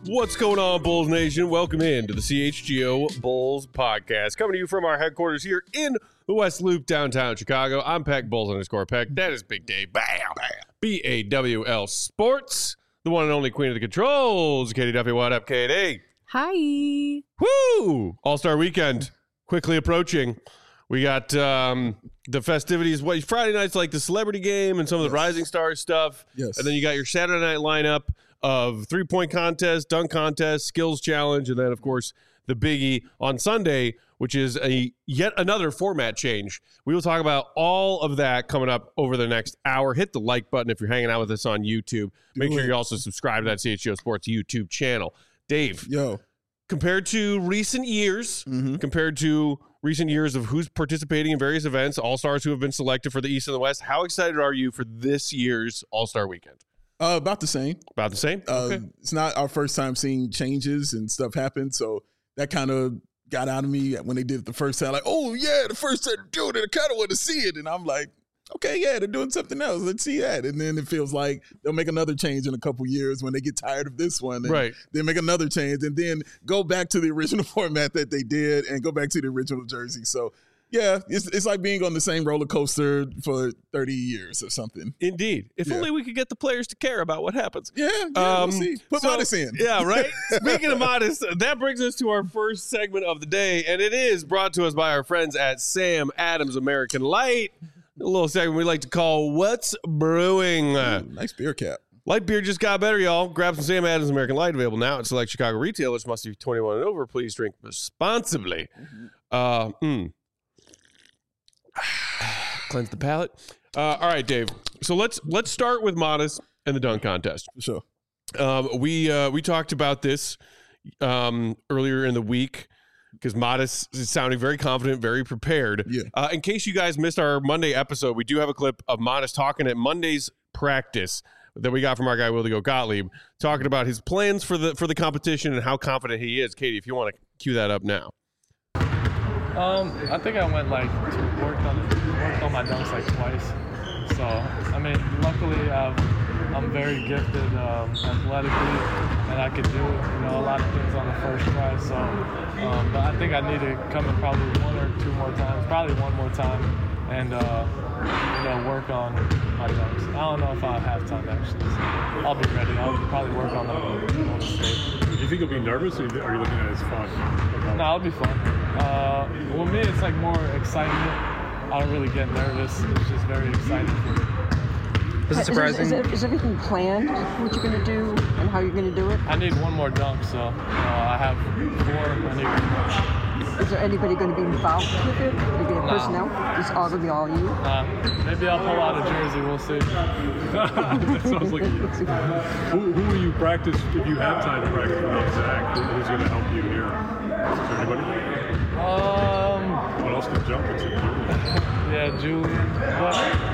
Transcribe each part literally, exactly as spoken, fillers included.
What's going on, Bulls Nation? Welcome in to the C H G O Bulls podcast. Coming to you from our headquarters here in the West Loop, downtown Chicago. I'm Peck, Bulls underscore Peck. That is Big Dave. Bam! Bam. B A W L Sports. The one and only queen of the controls, Katie Duffy. What up, Katie? Hi. Woo! All-Star Weekend quickly approaching. We got um, the festivities. What Friday night's like the celebrity game and some of the yes. Rising Stars stuff. Yes. And then you got your Saturday night lineup of three-point contest, dunk contest, skills challenge, and then, of course, the biggie on Sunday, which is a yet another format change. We will talk about all of that coming up over the next hour. Hit the like button if you're hanging out with us on YouTube. Make sure you also subscribe to that C H G O Sports YouTube channel. Dave, yo, compared to recent years, mm-hmm. compared to recent years of who's participating in various events, All-Stars who have been selected for the East and the West, how excited are you for this year's All-Star Weekend? Uh, about the same. About the same? Uh, okay. It's not our first time seeing changes and stuff happen, so that kind of got out of me when they did it the first time. Like, oh, yeah, the first time to do it, I kind of want to see it. And I'm like, okay, yeah, they're doing something else. Let's see that. And then it feels like they'll make another change in a couple years when they get tired of this one. And right. They make another change and then go back to the original format that they did and go back to the original jersey. So, yeah, it's it's like being on the same roller coaster for thirty years or something. Indeed. If yeah. only we could get the players to care about what happens. Yeah, yeah um, we'll see. Put so, Modest in. Yeah, right? Speaking of Modest, that brings us to our first segment of the day, and it is brought to us by our friends at Sam Adams American Light. A little segment we like to call What's Brewing. Ooh, nice beer cap. Light beer just got better, y'all. Grab some Sam Adams American Light, available now at select Chicago retailers. Must be twenty-one and over. Please drink responsibly. Mm-hmm. Uh, mm. Cleanse the palate. Uh, all right, Dave. So let's let's start with Modest and the dunk contest. Sure. Um, we uh, we talked about this um, earlier in the week because Modest is sounding very confident, very prepared. Yeah. Uh, in case you guys missed our Monday episode, we do have a clip of Modest talking at Monday's practice that we got from our guy Will to Go Gottlieb, talking about his plans for the for the competition and how confident he is. Katie, if you want to cue that up now. Um, I think I went like to work on worked on my dunks like twice. So I mean, luckily I've, I'm very gifted um, athletically, and I could do you know a lot of things on the first try. So, um, but I think I need to come in probably one or two more times, probably one more time, and uh, you know work on my dunks. I don't know if I'll have time actually. So I'll be ready. I'll probably work on them on the state. Do you think you'll be nervous, or are you looking at it as fun? No, it'll be fun. Uh, well, me, it's like more excitement. I don't really get nervous. It's just very exciting for me. Is it surprising? Is, is, is everything planned, what you're going to do and how you're going to do it? I need one more dunk, so uh, I have four. I need one more. Is there anybody going to be involved with it? Maybe a nah. personnel? It's all going to be all you? Nah. Maybe I'll pull out a jersey. We'll see. That sounds like you. Who, who will you practice if you have time to practice with Zach? Who's going to help you here? Is there anybody? Um, what else can jump into? Yeah, Julian. But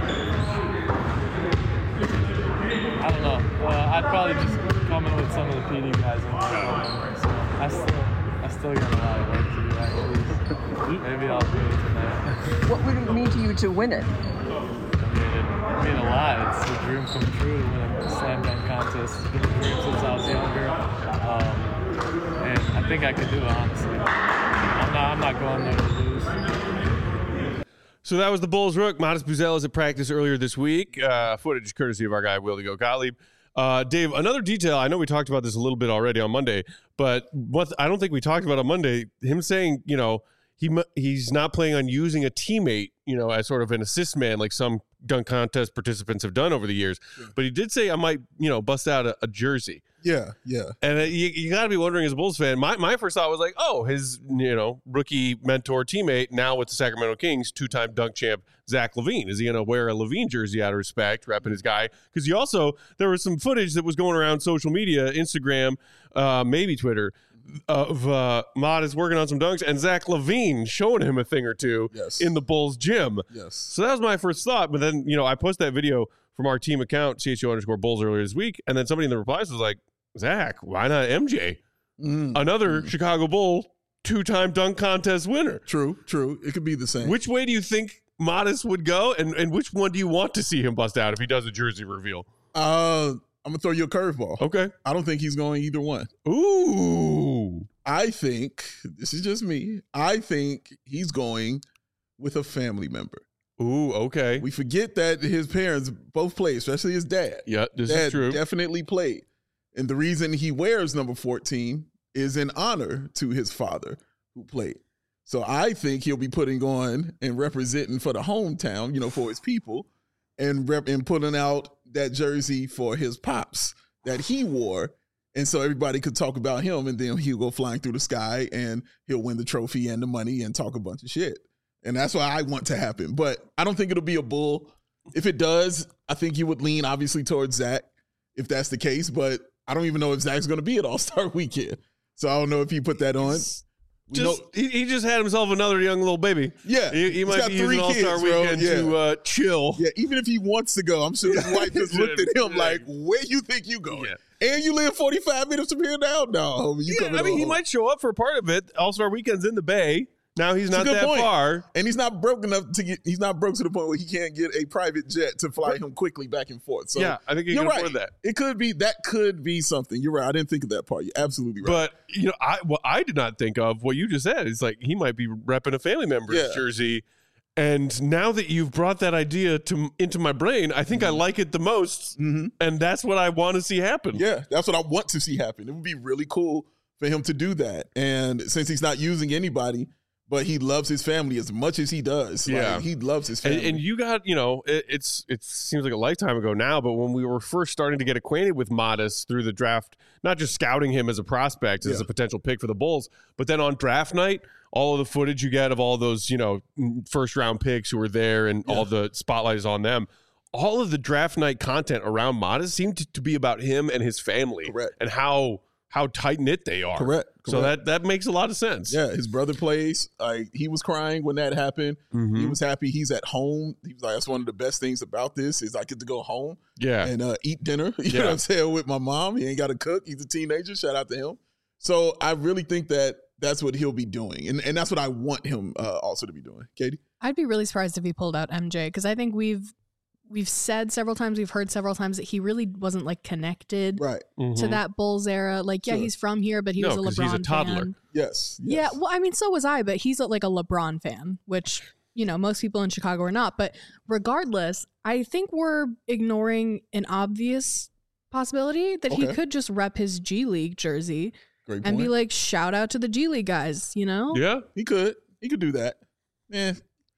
I don't know. Uh, I'd probably just come in with some of the P D guys. And yeah. So I still, I still got a lot of work to do. Actually, maybe I'll do it tonight. What would it mean to you to win it? I mean, it I mean a lot. It's a dream come true to win a slam dunk contest. It's been a dream since I was younger. Um, and I think I could do it, honestly. I'm not, I'm not going there to lose. So that was the Bulls rook. Modest Buzelis at practice earlier this week. Uh, footage courtesy of our guy, Will to Go Gottlieb. Uh, Dave, another detail, I know we talked about this a little bit already on Monday, but what I don't think we talked about on Monday, him saying, you know, he he's not planning on using a teammate, you know, as sort of an assist man like some dunk contest participants have done over the years. Yeah. But he did say I might, you know, bust out a, a jersey. Yeah, yeah. And uh, you, you got to be wondering as a Bulls fan, my, my first thought was like, oh, his, you know, rookie mentor teammate now with the Sacramento Kings, two-time dunk champ, Zach LaVine. Is he going to wear a LaVine jersey out of respect, repping his guy? Because you also, there was some footage that was going around social media, Instagram, uh, maybe Twitter, of uh, Modest working on some dunks and Zach LaVine showing him a thing or two yes. in the Bulls gym. Yes. So that was my first thought. But then, you know, I posted that video from our team account, C H O underscore Bulls, earlier this week. And then somebody in the replies was like, Zach, why not M J? Mm. Another mm. Chicago Bull, two-time dunk contest winner. True, true. It could be the same. Which way do you think Modest would go? And, and which one do you want to see him bust out if he does a jersey reveal? Uh, I'm gonna throw you a curveball. Okay. I don't think he's going either one. Ooh. I think this is just me. I think he's going with a family member. Ooh. Okay. We forget that his parents both played, especially his dad. Yeah, this dad is true. Definitely played, and the reason he wears number fourteen is in honor to his father who played. So I think he'll be putting on and representing for the hometown, you know, for his people, and rep- and putting out that jersey for his pops that he wore. And so everybody could talk about him, and then he'll go flying through the sky and he'll win the trophy and the money and talk a bunch of shit. And that's what I want to happen. But I don't think it'll be a bull. If it does, I think you would lean obviously towards Zach if that's the case. But I don't even know if Zach's going to be at All-Star Weekend. So I don't know if he put that on. We Just know, he, he just had himself another young little baby. yeah. He, he he's might got be three using All Star kids, bro. Weekend Yeah. to uh, chill. Yeah, even if he wants to go, I'm sure his wife just looked at him like, where you think you going? Yeah. And you live forty-five minutes from here now? No, homie, you Yeah, coming I mean, on he home. might show up for part of it. All Star Weekend's in the Bay. Now he's It's a not good that point. far. And he's not broke enough to get, he's not broke to the point where he can't get a private jet to fly him quickly back and forth. So Yeah, I think he you're can right. afford that. It could be, that could be something. You're right. I didn't think of that part. You're absolutely right. But you know, I what I did not think of what you just said is like he might be repping a family member's Yeah. jersey. And now that you've brought that idea to into my brain, I think Mm-hmm. I like it the most, Mhm. and that's what I want to see happen. Yeah, that's what I want to see happen. It would be really cool for him to do that. And since he's not using anybody, but he loves his family as much as he does. Like, Yeah. he loves his And, family. and you got, you know, it, it's it seems like a lifetime ago now, but when we were first starting to get acquainted with Modest through the draft, not just scouting him as a prospect, as Yeah. a potential pick for the Bulls, but then on draft night, all of the footage you get of all those, you know, first round picks who were there and Yeah. all the spotlight is on them. All of the draft night content around Modest seemed to, to be about him and his family. Correct. And how how tight knit they are. Correct. So correct. that that makes a lot of sense. Yeah, his brother plays. Like he was crying when that happened. Mhm. He was happy. He's at home. He was like, that's one of the best things about this is I get to go home Yeah. and uh, eat dinner. You Yeah. know what I'm saying? With my mom. He ain't got to cook. He's a teenager. Shout out to him. So I really think that that's what he'll be doing. And and that's what I want him uh, also to be doing. Katie? I'd be really surprised if he pulled out M J because I think we've we've said several times, we've heard several times that he really wasn't like connected Right. to Mhm. that Bulls era. Like, yeah, Sure. he's from here, but he No, was a 'cause LeBron he's a toddler. fan. Yes. Yeah, yes. well, I mean, so was I, but he's a, like a LeBron fan, which, you know, most people in Chicago are not. But regardless, I think we're ignoring an obvious possibility that he Okay. could just rep his G League jersey Great and point. be like, shout out to the G League guys, you know? Yeah. He could. He could do that. Yeah.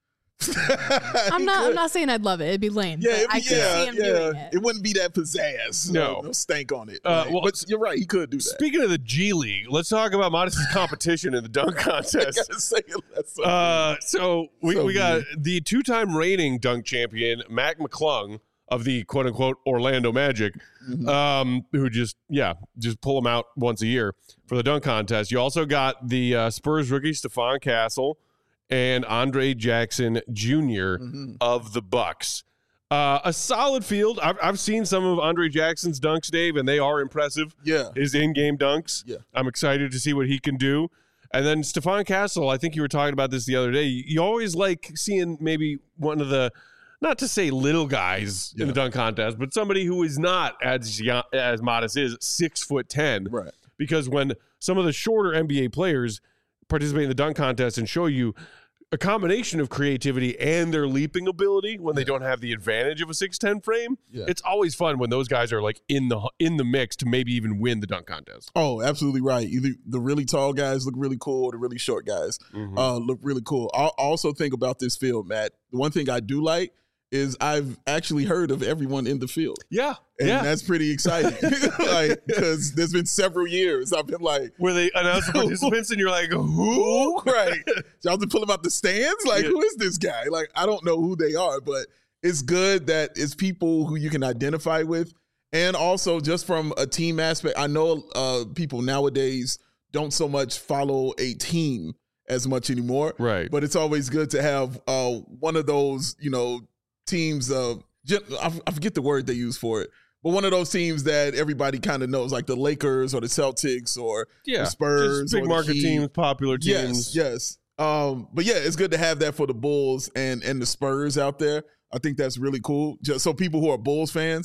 I'm not I'm not saying I'd love it. It'd be lame. Yeah, but it'd be- I could yeah, see him yeah. doing It. it. wouldn't be that pizzazz. No. no, no stank on it. Uh, Like, well, but you're right. He could do that. Speaking of the G League, let's talk about Modest's competition in the dunk I contest. gotta say it. That's so Uh, so we, So we got weird. the two-time reigning dunk champion, Mac McClung of the quote-unquote Orlando Magic, Mhm. um, who just, yeah, just pull him out once a year for the dunk contest. You also got the uh, Spurs rookie, Stephon Castle, and Andre Jackson Junior Mhm. of the Bucks. Uh, a solid field. I've, I've seen some of Andre Jackson's dunks, Dave, and they are impressive. Yeah. His in-game dunks. Yeah. I'm excited to see what he can do. And then Stephon Castle, I think you were talking about this the other day. You you always like seeing maybe one of the, not to say little guys in Yeah. the dunk contest, but somebody who is not as young, as Modest is, six foot ten. Right. Because when some of the shorter N B A players participate in the dunk contest and show you a combination of creativity and their leaping ability when they don't have the advantage of a six ten frame, Yeah. it's always fun when those guys are like in the in the mix to maybe even win the dunk contest. Oh, absolutely right. Either the really tall guys look really cool, or the really short guys Mhm. uh, look really cool. I also think about this field, Matt. The one thing I do like is I've actually heard of everyone in the field, Yeah, and yeah. that's pretty exciting. Like, because there's been several years I've been like, Where they announce the participants and you're like, who? who? Right? Y'all to pull them out the stands? Like, Yeah. who is this guy? Like, I don't know who they are, but it's good that it's people who you can identify with. And also just from a team aspect, I know uh, people nowadays don't so much follow a team as much anymore. Right. But it's always good to have uh, one of those, you know, teams of, I I forget the word they use for it, but one of those teams that everybody kind of knows, like the Lakers or the Celtics or Yeah. the Spurs Just big or the market Heat. teams, popular teams. Yes, yes. Um, but yeah, it's good to have that for the Bulls and and the Spurs out there. I think that's really cool. Just so people who are Bulls fans,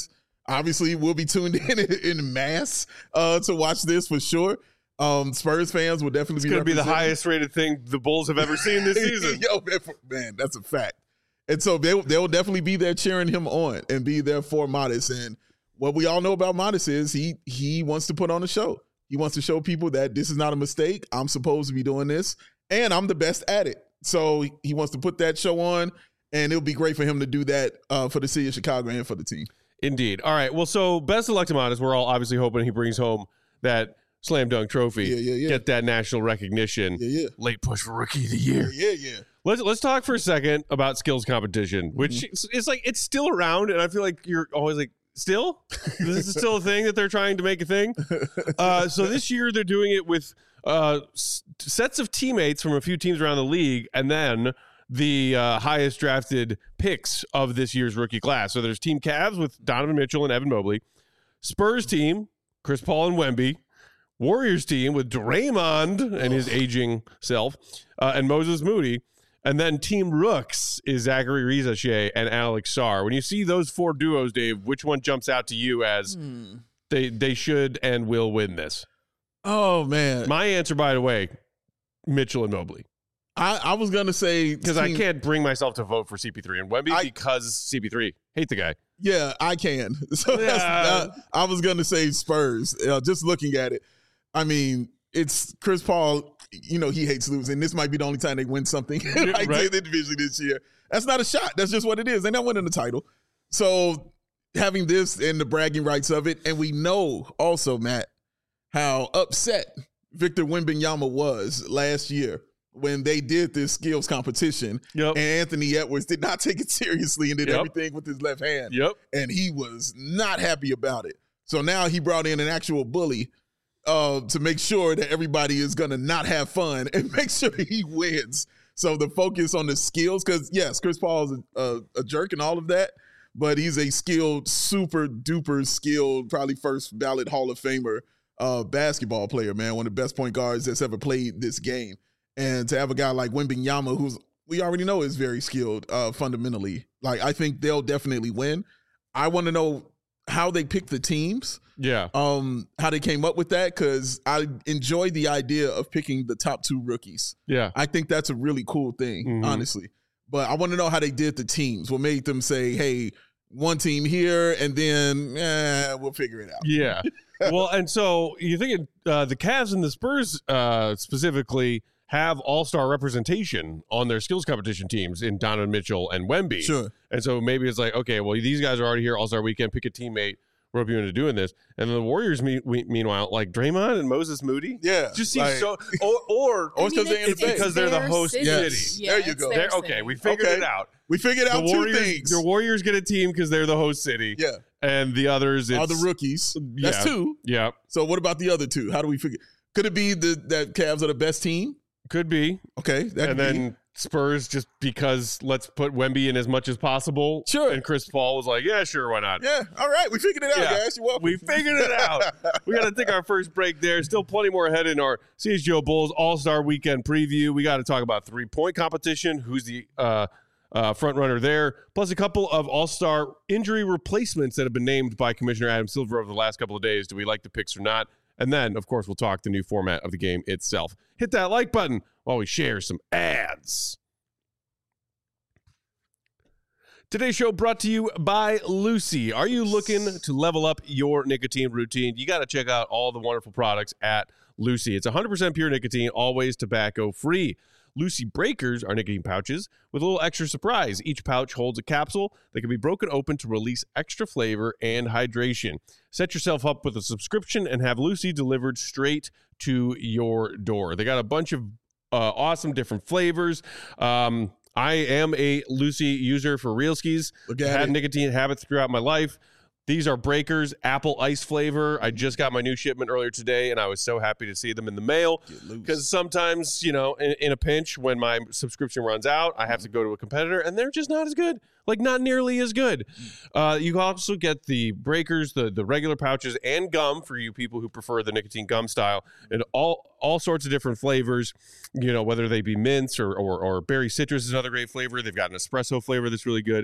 obviously we'll be tuned in in mass uh, to watch this for sure. Um, Spurs fans will definitely it's be going to be the represented. highest rated thing the Bulls have ever seen this season. Yo, man, man, that's a fact. And so they they will definitely be there cheering him on and be there for Modest. And what we all know about Modest is he he wants to put on a show. He wants to show people that this is not a mistake. I'm supposed to be doing this, and I'm the best at it. So he wants to put that show on, and it'll be great for him to do that uh, for the city of Chicago and for the team. Indeed. All right. Well, so best of luck to Modest. We're all obviously hoping he brings home that slam dunk trophy. Yeah, yeah, yeah. Get that national recognition. Yeah, yeah. Late push for rookie of the year. Yeah, yeah. Let's let's talk for a second about skills competition, which mm-hmm. is like it's still around, and I feel like you're always like, still? This is still a thing that they're trying to make a thing. Uh, so this year they're doing it with uh, s- sets of teammates from a few teams around the league, and then the uh, highest drafted picks of this year's rookie class. So there's Team Cavs with Donovan Mitchell and Evan Mobley, Spurs team, Chris Paul and Wemby, Warriors team with Draymond and his aging self, uh, and Moses Moody. And then Team Rooks is Zachary Rizache and Alex Sarr. When you see those four duos, Dave, which one jumps out to you as hmm. they they should and will win this? Oh, man. My answer, by the way, Mitchell and Mobley. I, I was going to say... Because I can't bring myself to vote for C P three and Wemby I, because C P three. Hate the guy. Yeah, I can. So yeah. that's, uh, I was going to say Spurs. Uh, just looking at it. I mean, it's Chris Paul... You know, he hates losing. This might be the only time they win something like right. the division this year. That's not a shot. That's just what it is. They're not winning the title. So having this and the bragging rights of it, and we know also, Matt, how upset Victor Wembanyama was last year when they did this skills competition, yep. and Anthony Edwards did not take it seriously and did yep. everything with his left hand. Yep. And he was not happy about it. So now he brought in an actual bully Uh, to make sure that everybody is going to not have fun and make sure he wins. So the focus on the skills, because, yes, Chris Paul is a, a, a jerk and all of that, but he's a skilled, super duper skilled, probably first ballot Hall of Famer uh, basketball player, man, one of the best point guards that's ever played this game. And to have a guy like Wembanyama, who's we already know is very skilled uh, fundamentally, like I think they'll definitely win. I want to know how they pick the teams. Yeah. Um, how they came up with that, because I enjoy the idea of picking the top two rookies. Yeah. I think that's a really cool thing, mm-hmm. honestly. But I want to know how they did the teams. What made them say, hey, one team here, and then eh, we'll figure it out. Yeah. Well, and so you're thinking uh, the Cavs and the Spurs uh, specifically have all-star representation on their skills competition teams in Donovan Mitchell and Wemby. Sure. And so maybe it's like, okay, well, these guys are already here, all-star weekend, pick a teammate, rope you into doing this. And then the Warriors, me- we- meanwhile, like Draymond and Moses Moody. Yeah. Just seems like, so, or, or, or because they're in the it's because they're the host city. Yes. Yeah, there you go. their okay, city. we figured Okay. it out. We figured The out Warriors, two things. the Warriors get a team because they're the host city. Yeah. And the others, it's, Are the rookies. That's yeah. two. Yeah. So what about the other two? How do we figure? Could it be the, that Cavs are the best team? Could be. Okay. That And could then be. Spurs, just because let's put Wemby in as much as possible. Sure. And Chris Paul was like, yeah, sure, why not? Yeah. All right. We figured it out, Yeah. guys. You're welcome. We figured it out. We got to take our first break there. Still plenty more ahead in our C H G O Bulls All-Star Weekend preview. We got to talk about three-point competition, who's the uh, uh, front runner there, plus a couple of All-Star injury replacements that have been named by Commissioner Adam Silver over the last couple of days. Do we like the picks or not? And then, of course, we'll talk the new format of the game itself. Hit that like button while we share some ads. Today's show brought to you by Lucy. Are you looking to level up your nicotine routine? You got to check out all the wonderful products at Lucy. It's one hundred percent pure nicotine, always tobacco-free. Lucy Breakers are nicotine pouches with a little extra surprise. Each pouch holds a capsule that can be broken open to release extra flavor and hydration. Set yourself up with a subscription and have Lucy delivered straight to your door. They got a bunch of uh, awesome different flavors. Um, I am a Lucy user for real skis. Look at Had it. nicotine habits throughout my life. These are Breakers apple ice flavor. I just got my new shipment earlier today, and I was so happy to see them in the mail because sometimes, you know, in, in a pinch when my subscription runs out, I have to go to a competitor, and they're just not as good, like not nearly as good. Uh, you also get the Breakers, the, the regular pouches, and gum for you people who prefer the nicotine gum style, and all all sorts of different flavors, you know, whether they be mints or, or, or berry citrus is another great flavor. They've got an espresso flavor that's really good.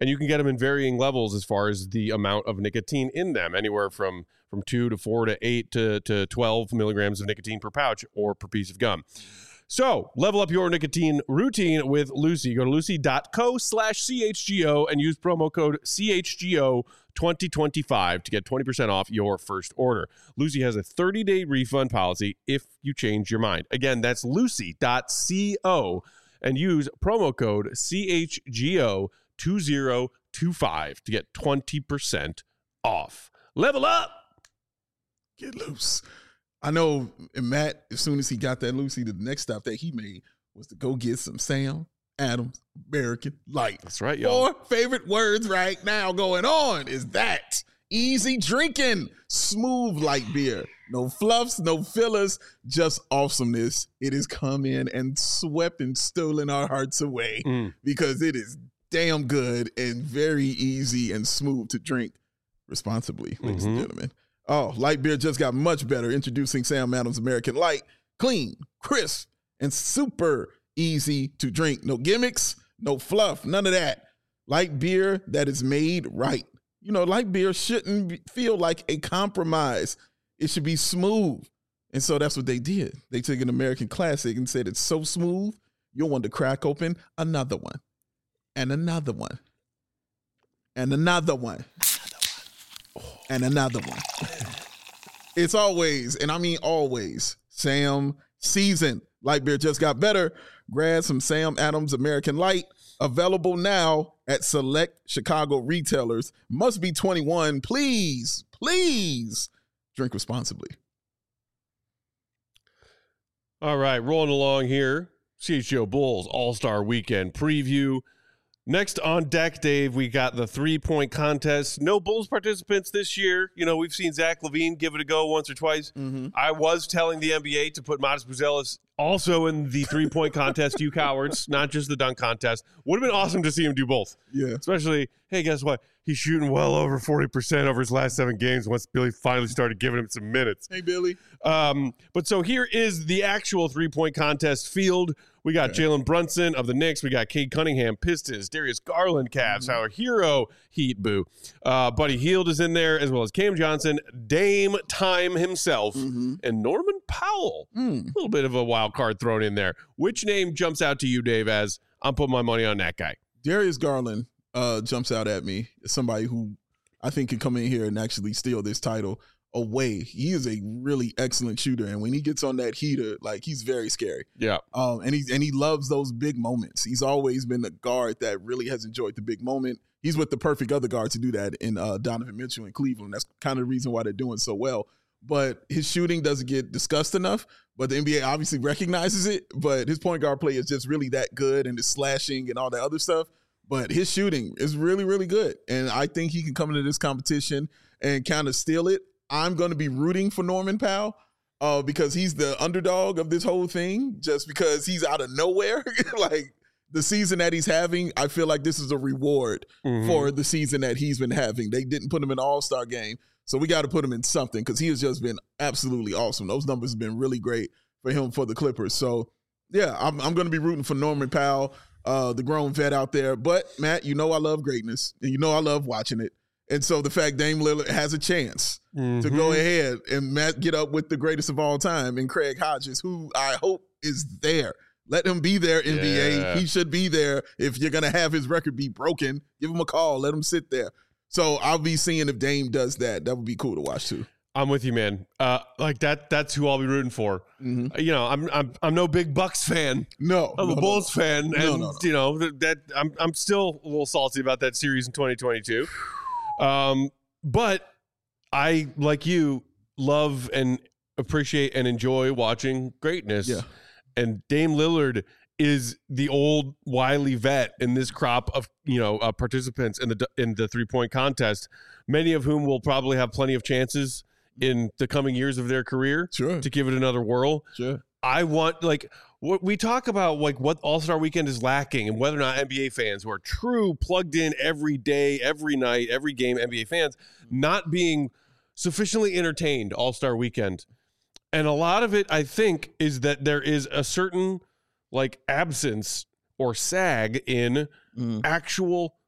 And you can get them in varying levels as far as the amount of nicotine in them, anywhere from from two to four to eight to, to twelve milligrams of nicotine per pouch or per piece of gum. So level up your nicotine routine with Lucy. Go to lucy.co slash CHGO and use promo code C H G O twenty twenty-five to get twenty percent off your first order. Lucy has a thirty-day refund policy if you change your mind. Again, that's lucy.co and use promo code C H G O twenty twenty-five to get twenty percent off. Level up. Get loose. I know Matt, as soon as he got that Lucy, the next stop that he made was to go get some Sam Adams American Light. That's right, y'all. Four favorite words right now going on is that. Easy drinking, smooth light beer. No fluffs, no fillers, just awesomeness. It has come in and swept and stolen our hearts away Mm. because it is damn good and very easy and smooth to drink responsibly, ladies Mhm. and gentlemen. Oh, light beer just got much better. Introducing Sam Adams American Light. Clean, crisp, and super easy to drink. No gimmicks, no fluff, none of that. Light beer that is made right. You know, light beer shouldn't be, feel like a compromise. It should be smooth. And so that's what they did. They took an American classic and said it's so smooth, you'll want to crack open another one. And another one. And another one. And another one. It's always, and I mean always, Sam season. Light beer just got better. Grab some Sam Adams American Light. Available now at select Chicago retailers. Must be twenty-one. Please, please drink responsibly. All right, rolling along here. C H G O Bulls All-Star Weekend preview. Next on deck, Dave, we got the three-point contest. No Bulls participants this year. You know, we've seen Zach LaVine give it a go once or twice. Mm-hmm. I was telling the N B A to put Modest Buzelis also in the three-point contest, you cowards, not just the dunk contest. Would have been awesome to see him do both. Yeah. Especially, hey, guess what? He's shooting well over forty percent over his last seven games once Billy finally started giving him some minutes. Hey, Billy. Um, but so here is the actual three-point contest field. We got Okay. Jalen Brunson of the Knicks. We got Cade Cunningham, Pistons. Darius Garland, Cavs. Mm-hmm. Our hero, Heat, boo. Uh, Buddy Hield is in there, as well as Cam Johnson, Dame Time himself, Mm-hmm. and Norman Powell. Mm. A little bit of a wild card thrown in there. Which name jumps out to you, Dave, as I'm putting my money on that guy? Darius Garland uh, jumps out at me as somebody who I think can come in here and actually steal this title away. He is a really excellent shooter, and when he gets on that heater, like, he's very scary. Yeah. Um, and he and he loves those big moments. He's always been a guard that really has enjoyed the big moment. He's with the perfect other guard to do that in uh, Donovan Mitchell in Cleveland. That's kind of the reason why they're doing so well. But his shooting doesn't get discussed enough. But the N B A obviously recognizes it. But his point guard play is just really that good, and his slashing and all that other stuff. But his shooting is really, really good. And I think he can come into this competition and kind of steal it. I'm going to be rooting for Norman Powell uh, because he's the underdog of this whole thing, just because he's out of nowhere. Like, the season that he's having, I feel like this is a reward Mhm. for the season that he's been having. They didn't put him in the All-Star game, so we got to put him in something because he has just been absolutely awesome. Those numbers have been really great for him for the Clippers. So, yeah, I'm, I'm going to be rooting for Norman Powell, uh, the grown vet out there. But, Matt, you know I love greatness, and you know I love watching it. And so the fact Dame Lillard has a chance Mhm. to go ahead and Matt get up with the greatest of all time and Craig Hodges, who I hope is there. Let him be there, N B A. Yeah. He should be there. If you're going to have his record be broken, give him a call. Let him sit there. So I'll be seeing if Dame does that. That would be cool to watch too. I'm with you, man. Uh, like that. That's who I'll be rooting for. Mm-hmm. You know, I'm I'm I'm no big Bucks fan. No. I'm no, a no, Bulls fan, and No, no, no. you know that, that I'm I'm still a little salty about that series in twenty twenty-two. Um, but I, like you, love and appreciate and enjoy watching greatness. Yeah. And Dame Lillard is the old wily vet in this crop of you know uh, participants in the in the three point contest. Many of whom will probably have plenty of chances in the coming years of their career Sure. to give it another whirl. Sure. I want, like, what we talk about, like what All-Star Weekend is lacking and whether or not N B A fans who are true plugged in every day, every night, every game N B A fans not being sufficiently entertained All-Star Weekend. And a lot of it, I think, is that there is a certain like absence or sag in Mm. actual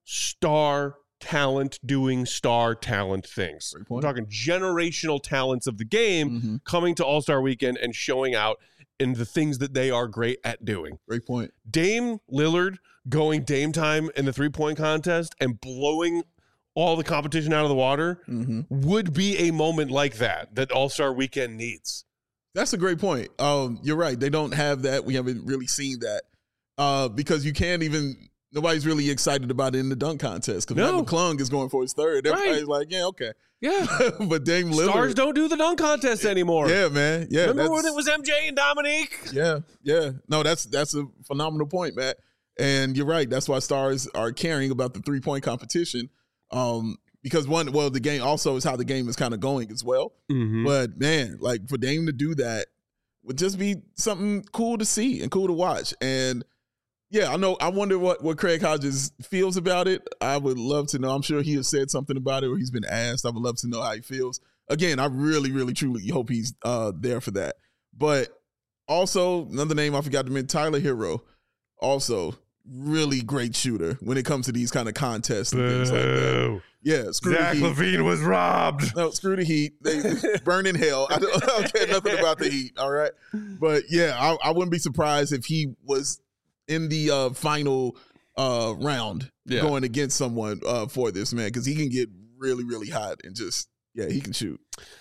star talent doing star talent things. Great We're point. talking generational talents of the game Mm-hmm. coming to All-Star Weekend and showing out in the things that they are great at doing. Great point. Dame Lillard going Dame time in the three-point contest and blowing all the competition out of the water Mm-hmm. would be a moment like that that All-Star Weekend needs. That's a great point. Um, you're right. They don't have that. We haven't really seen that uh, because you can't even. Nobody's really excited about it in the dunk contest because No. Matt McClung is going for his third. Everybody's Right. like, yeah, okay. Yeah. But Dame Lillard, Stars don't do the dunk contest anymore. yeah, man, yeah. Remember when that's- it was M J and Dominique? Yeah, yeah. No, that's that's a phenomenal point, Matt. And you're right. That's why stars are caring about the three point competition. Um, because one, well, the game also is how the game is kind of going as well. Mm-hmm. But man, like for Dame to do that would just be something cool to see and cool to watch. And yeah, I know. I wonder what what Craig Hodges feels about it. I would love to know. I'm sure he has said something about it or he's been asked. I would love to know how he feels. Again, I really, really, truly hope he's uh, there for that. But also, another name I forgot to mention, Tyler Hero. Also, really great shooter when it comes to these kind of contests and things like that. Yeah, screw Zach the Heat. LaVine was robbed. No, screw the Heat. They burn in hell. I don't, I don't care nothing about the Heat. All right, but yeah, I, I wouldn't be surprised if he was in the uh, final uh, round Yeah. going against someone uh, for this man because he can get really, really hot and just yeah, he can shoot.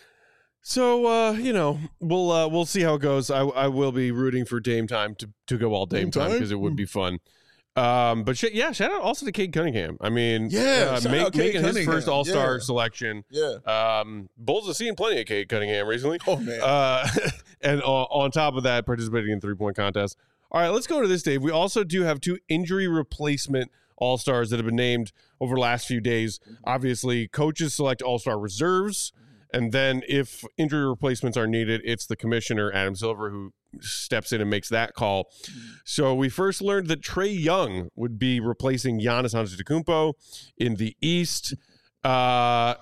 So uh, you know, we'll uh, we'll see how it goes. I I will be rooting for Dame time to to go all Dame, Dame time time? because it would be fun. Um, but sh- yeah, shout out also to Cade Cunningham. I mean, Yeah, uh, shout make, out Cade making his Cunningham. first All Star Yeah. selection. Yeah. Um, Bulls have seen plenty of Cade Cunningham recently. Oh man. Uh, and uh, on top of that, participating in three point contests. All right, let's go to this, Dave. We also do have two injury replacement All Stars that have been named over the last few days. Obviously, coaches select All Star reserves, and then if injury replacements are needed, it's the commissioner, Adam Silver, who steps in and makes that call. So we first learned that Trae Young would be replacing Giannis Antetokounmpo in the East. Uh,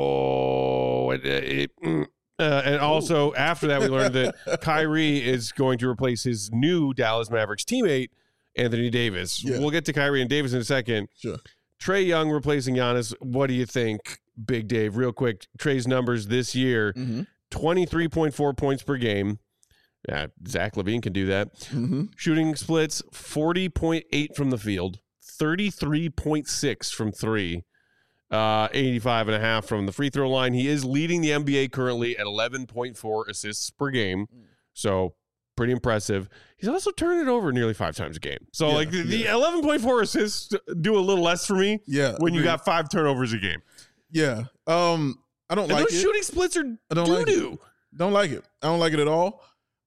oh, it, it, mm, uh, and also after that, we learned that Kyrie is going to replace his new Dallas Mavericks teammate, Anthony Davis. Yeah. We'll get to Kyrie and Davis in a second. Sure. Trae Young replacing Giannis. What do you think, Big Dave? Real quick, Trae's numbers this year, Mm-hmm. twenty-three point four points per game. Yeah, Zach LaVine can do that. Mm-hmm. Shooting splits, forty point eight from the field, thirty-three point six from three, uh, eighty-five and a half from the free throw line. He is leading the N B A currently at eleven point four assists per game. So pretty impressive. He's also turned it over nearly five times a game. So Yeah, like the, the yeah. eleven point four assists do a little less for me Yeah. when you agreed. got five turnovers a game. Yeah. Um, I don't And like those it. shooting splits are I don't like doo-doo. Don't like it. I don't like it at all.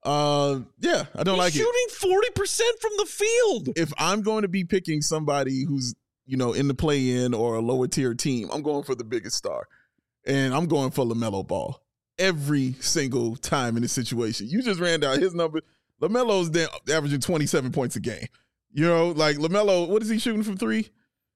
Uh, yeah, I don't He's like it. shooting forty percent from the field. If I'm going to be picking somebody who's, you know, in the play-in or a lower tier team, I'm going for the biggest star. And I'm going for LaMelo Ball every single time in this situation. You just ran down his number. LaMelo's down, averaging twenty-seven points a game. You know, like LaMelo, what is he shooting from three?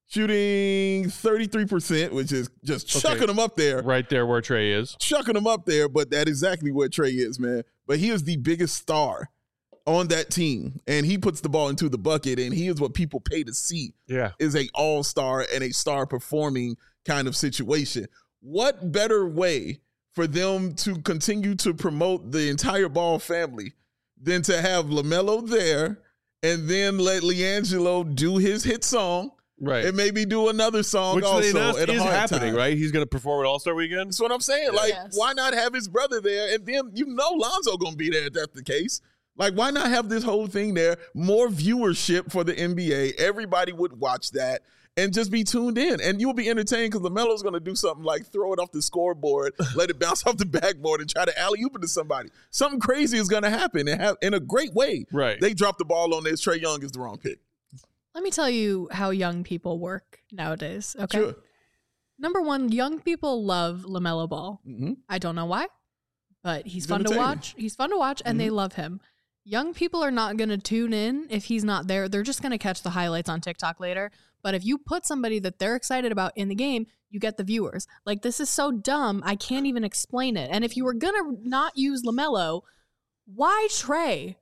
Shooting thirty-three percent, which is just Okay. chucking him up there. Right there where Trae is. Chucking him up there, but that is exactly where Trae is, man. But he is the biggest star on that team, and he puts the ball into the bucket, and he is what people pay to see Yeah. is a all-star and a star performing kind of situation. What better way for them to continue to promote the entire Ball family than to have LaMelo there and then let LiAngelo do his hit song Right. and maybe do another song Which also they announced at a is hard happening, time. right? He's going to perform at All-Star Weekend. That's what I'm saying. Like, Yes. why not have his brother there? And then you know Lonzo gonna be there if that's the case. Like, why not have this whole thing there? More viewership for the N B A. Everybody would watch that and just be tuned in. And you'll be entertained because LaMelo's gonna do something like throw it off the scoreboard, let it bounce off the backboard, and try to alley-oop it to somebody. Something crazy is gonna happen and have in a great way. Right. They dropped the ball on this. Trae Young is the wrong pick. Let me tell you how young people work nowadays. Okay. Sure. Number one, young people love LaMelo Ball. Mm-hmm. I don't know why, but he's, He's fun to entertaining. watch. He's fun to watch, and they love him. Young people are not going to tune in if he's not there. They're just going to catch the highlights on TikTok later. But if you put somebody that they're excited about in the game, you get the viewers. Like, this is so dumb, I can't even explain it. And if you were going to not use LaMelo, why Trae?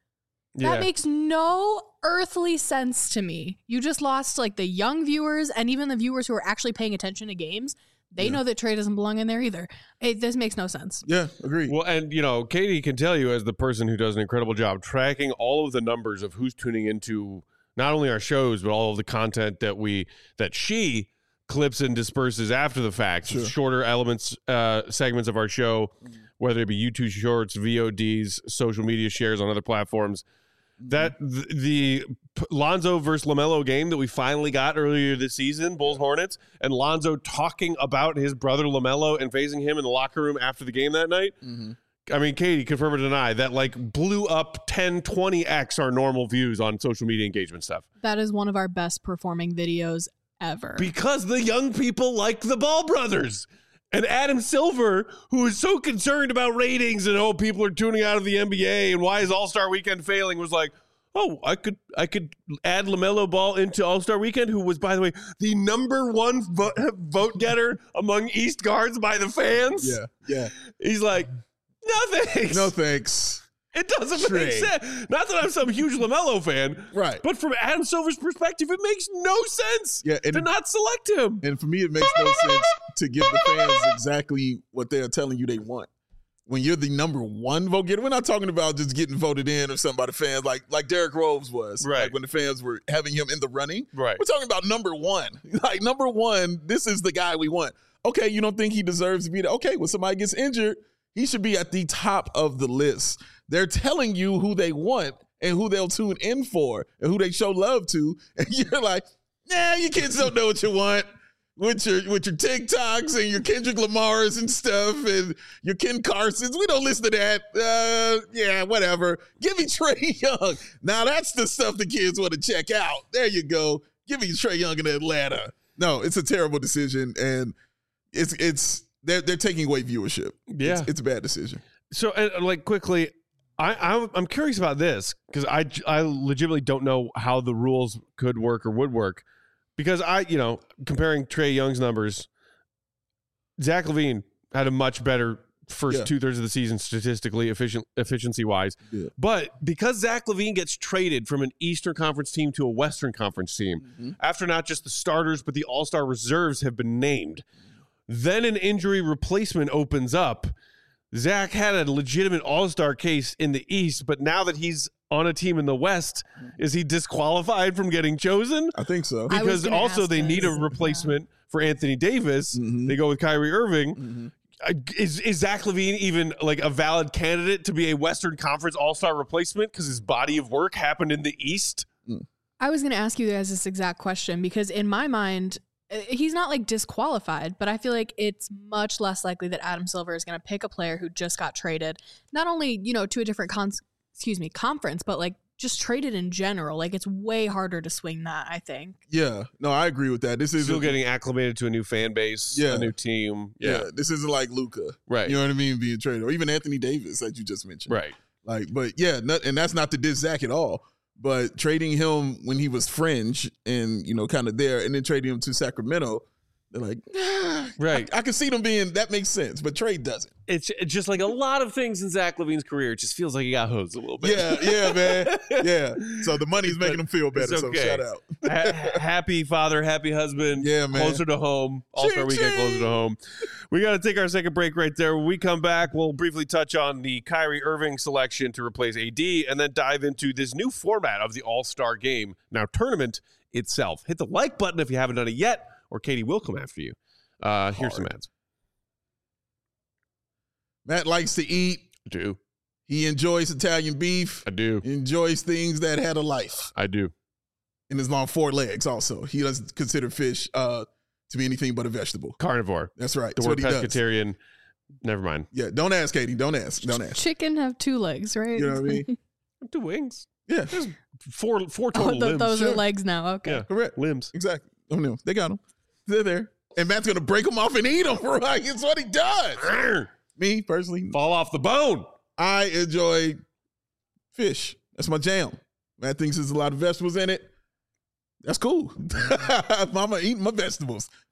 That Yeah. makes no earthly sense to me. You just lost like the young viewers and even the viewers who are actually paying attention to games. They Yeah. know that Trey doesn't belong in there either. It, this makes no sense. Yeah, agreed. Well, and you know, Katie can tell you as the person who does an incredible job tracking all of the numbers of who's tuning into not only our shows but all of the content that we that she clips and disperses after the fact, Sure. shorter elements, uh, segments of our show, whether it be YouTube Shorts, V O Ds, social media shares on other platforms. That the, the P- Lonzo versus LaMelo game that we finally got earlier this season, Bulls Hornets, and Lonzo talking about his brother LaMelo and facing him in the locker room after the game that night. Mhm. I mean, Katie, confirm or deny, that like blew up ten, twenty x our normal views on social media engagement stuff. That is one of our best performing videos ever. Because the young people like the Ball brothers. And Adam Silver, who is so concerned about ratings and oh, people are tuning out of the N B A and why is All-Star Weekend failing, was like, oh, I could I could add LaMelo Ball into All-Star Weekend, who was, by the way, the number one vote, vote getter among East guards by the fans. Yeah, yeah. He's like, no thanks. No thanks. It doesn't Trey. make sense. Not that I'm some huge LaMelo fan, Right. but from Adam Silver's perspective, it makes no sense Yeah, and- to not select him. And for me, it makes no sense to give the fans exactly what they're telling you they want. When you're the number one vote getter, we're not talking about just getting voted in or something by the fans like like Derrick Rose was. Right. Like when the fans were having him in the running. Right. We're talking about number one. Like number one, this is the guy we want. Okay, you don't think he deserves to be there? Okay, when somebody gets injured, he should be at the top of the list. They're telling you who they want and who they'll tune in for and who they show love to. And you're like, nah, you kids don't know what you want. With your with your TikToks and your Kendrick Lamars and stuff and your Ken Carsons. We don't listen to that. Uh, yeah, whatever. Give me Trey Young. Now that's the stuff the kids want to check out. There you go. Give me Trey Young in Atlanta. No, it's a terrible decision. And it's it's they're they're taking away viewership. Yeah. It's, it's a bad decision. So, uh, like, quickly, I, I'm, I'm curious about this because I, I legitimately don't know how the rules could work or would work. Because I, you know, comparing Trey Young's numbers, Zach LaVine had a much better first Yeah. two thirds of the season statistically, efficient efficiency wise. Yeah. But because Zach LaVine gets traded from an Eastern Conference team to a Western Conference team, Mm-hmm. after not just the starters but the All Star reserves have been named, then an injury replacement opens up. Zach had a legitimate All Star case in the East, but now that he's on a team in the West, is he disqualified from getting chosen? I think so. I was Because gonna also ask they need a this. replacement for Anthony Davis. Mhm. They go with Kyrie Irving. Mhm. Uh, Is is Zach LaVine even like a valid candidate to be a Western Conference All Star replacement because his body of work happened in the East? I was going to ask you guys this exact question because in my mind, uh, he's not like disqualified, but I feel like it's much less likely that Adam Silver is going to pick a player who just got traded, not only, you know, to a different cons- excuse me, conference, but like just traded in general. Like it's way harder to swing that, I think. Yeah. No, I agree with that. This is Still getting acclimated to a new fan base, Yeah. a new team. yeah. Yeah, This isn't like Luka. right, You know what I mean? Being traded, or even Anthony Davis, that you just mentioned. right. Like, but yeah, not, and that's not to diss Zach at all. But trading him when he was fringe and you know kind of there, and then trading him to Sacramento, they're like, ah, Right. I, I can see them being that makes sense, but trade doesn't. It's it's just like a lot of things in Zach LaVine's career. It just feels like he got hosed a little bit. Yeah, yeah, man, yeah. So the money's making But him feel better. it's So okay. shout out. Ha- happy father, happy husband. Yeah, man. Closer to home. All-Star Ching, Weekend closer ching. to home. We got to take our second break right there. When we come back, we'll briefly touch on the Kyrie Irving selection to replace A D and then dive into this new format of the All-Star Game, now tournament itself. Hit the like button if you haven't done it yet, or Katie will come after you. Uh, here's some ads. Matt likes to eat. I do. He enjoys Italian beef. I do. He enjoys things that had a life I do. and is on four legs. Also, he doesn't consider fish uh, to be anything but a vegetable. Carnivore. That's right. The That's word what he does. pescatarian. Never mind. Yeah, don't ask, Katie. Don't ask. Don't ask. Chicken have two legs, right? You know what I mean? Two wings. Yeah, Four four Oh, total th- limbs. those sure. are legs now. Okay. Yeah. correct. Limbs. Exactly. Oh no, they got them. They're there, and Matt's gonna break them off and eat them. Right? It's what he does. Arr! Me personally, Fall off the bone. I enjoy fish. That's my jam. Matt thinks there's a lot of vegetables in it. That's cool. Mama eating my vegetables.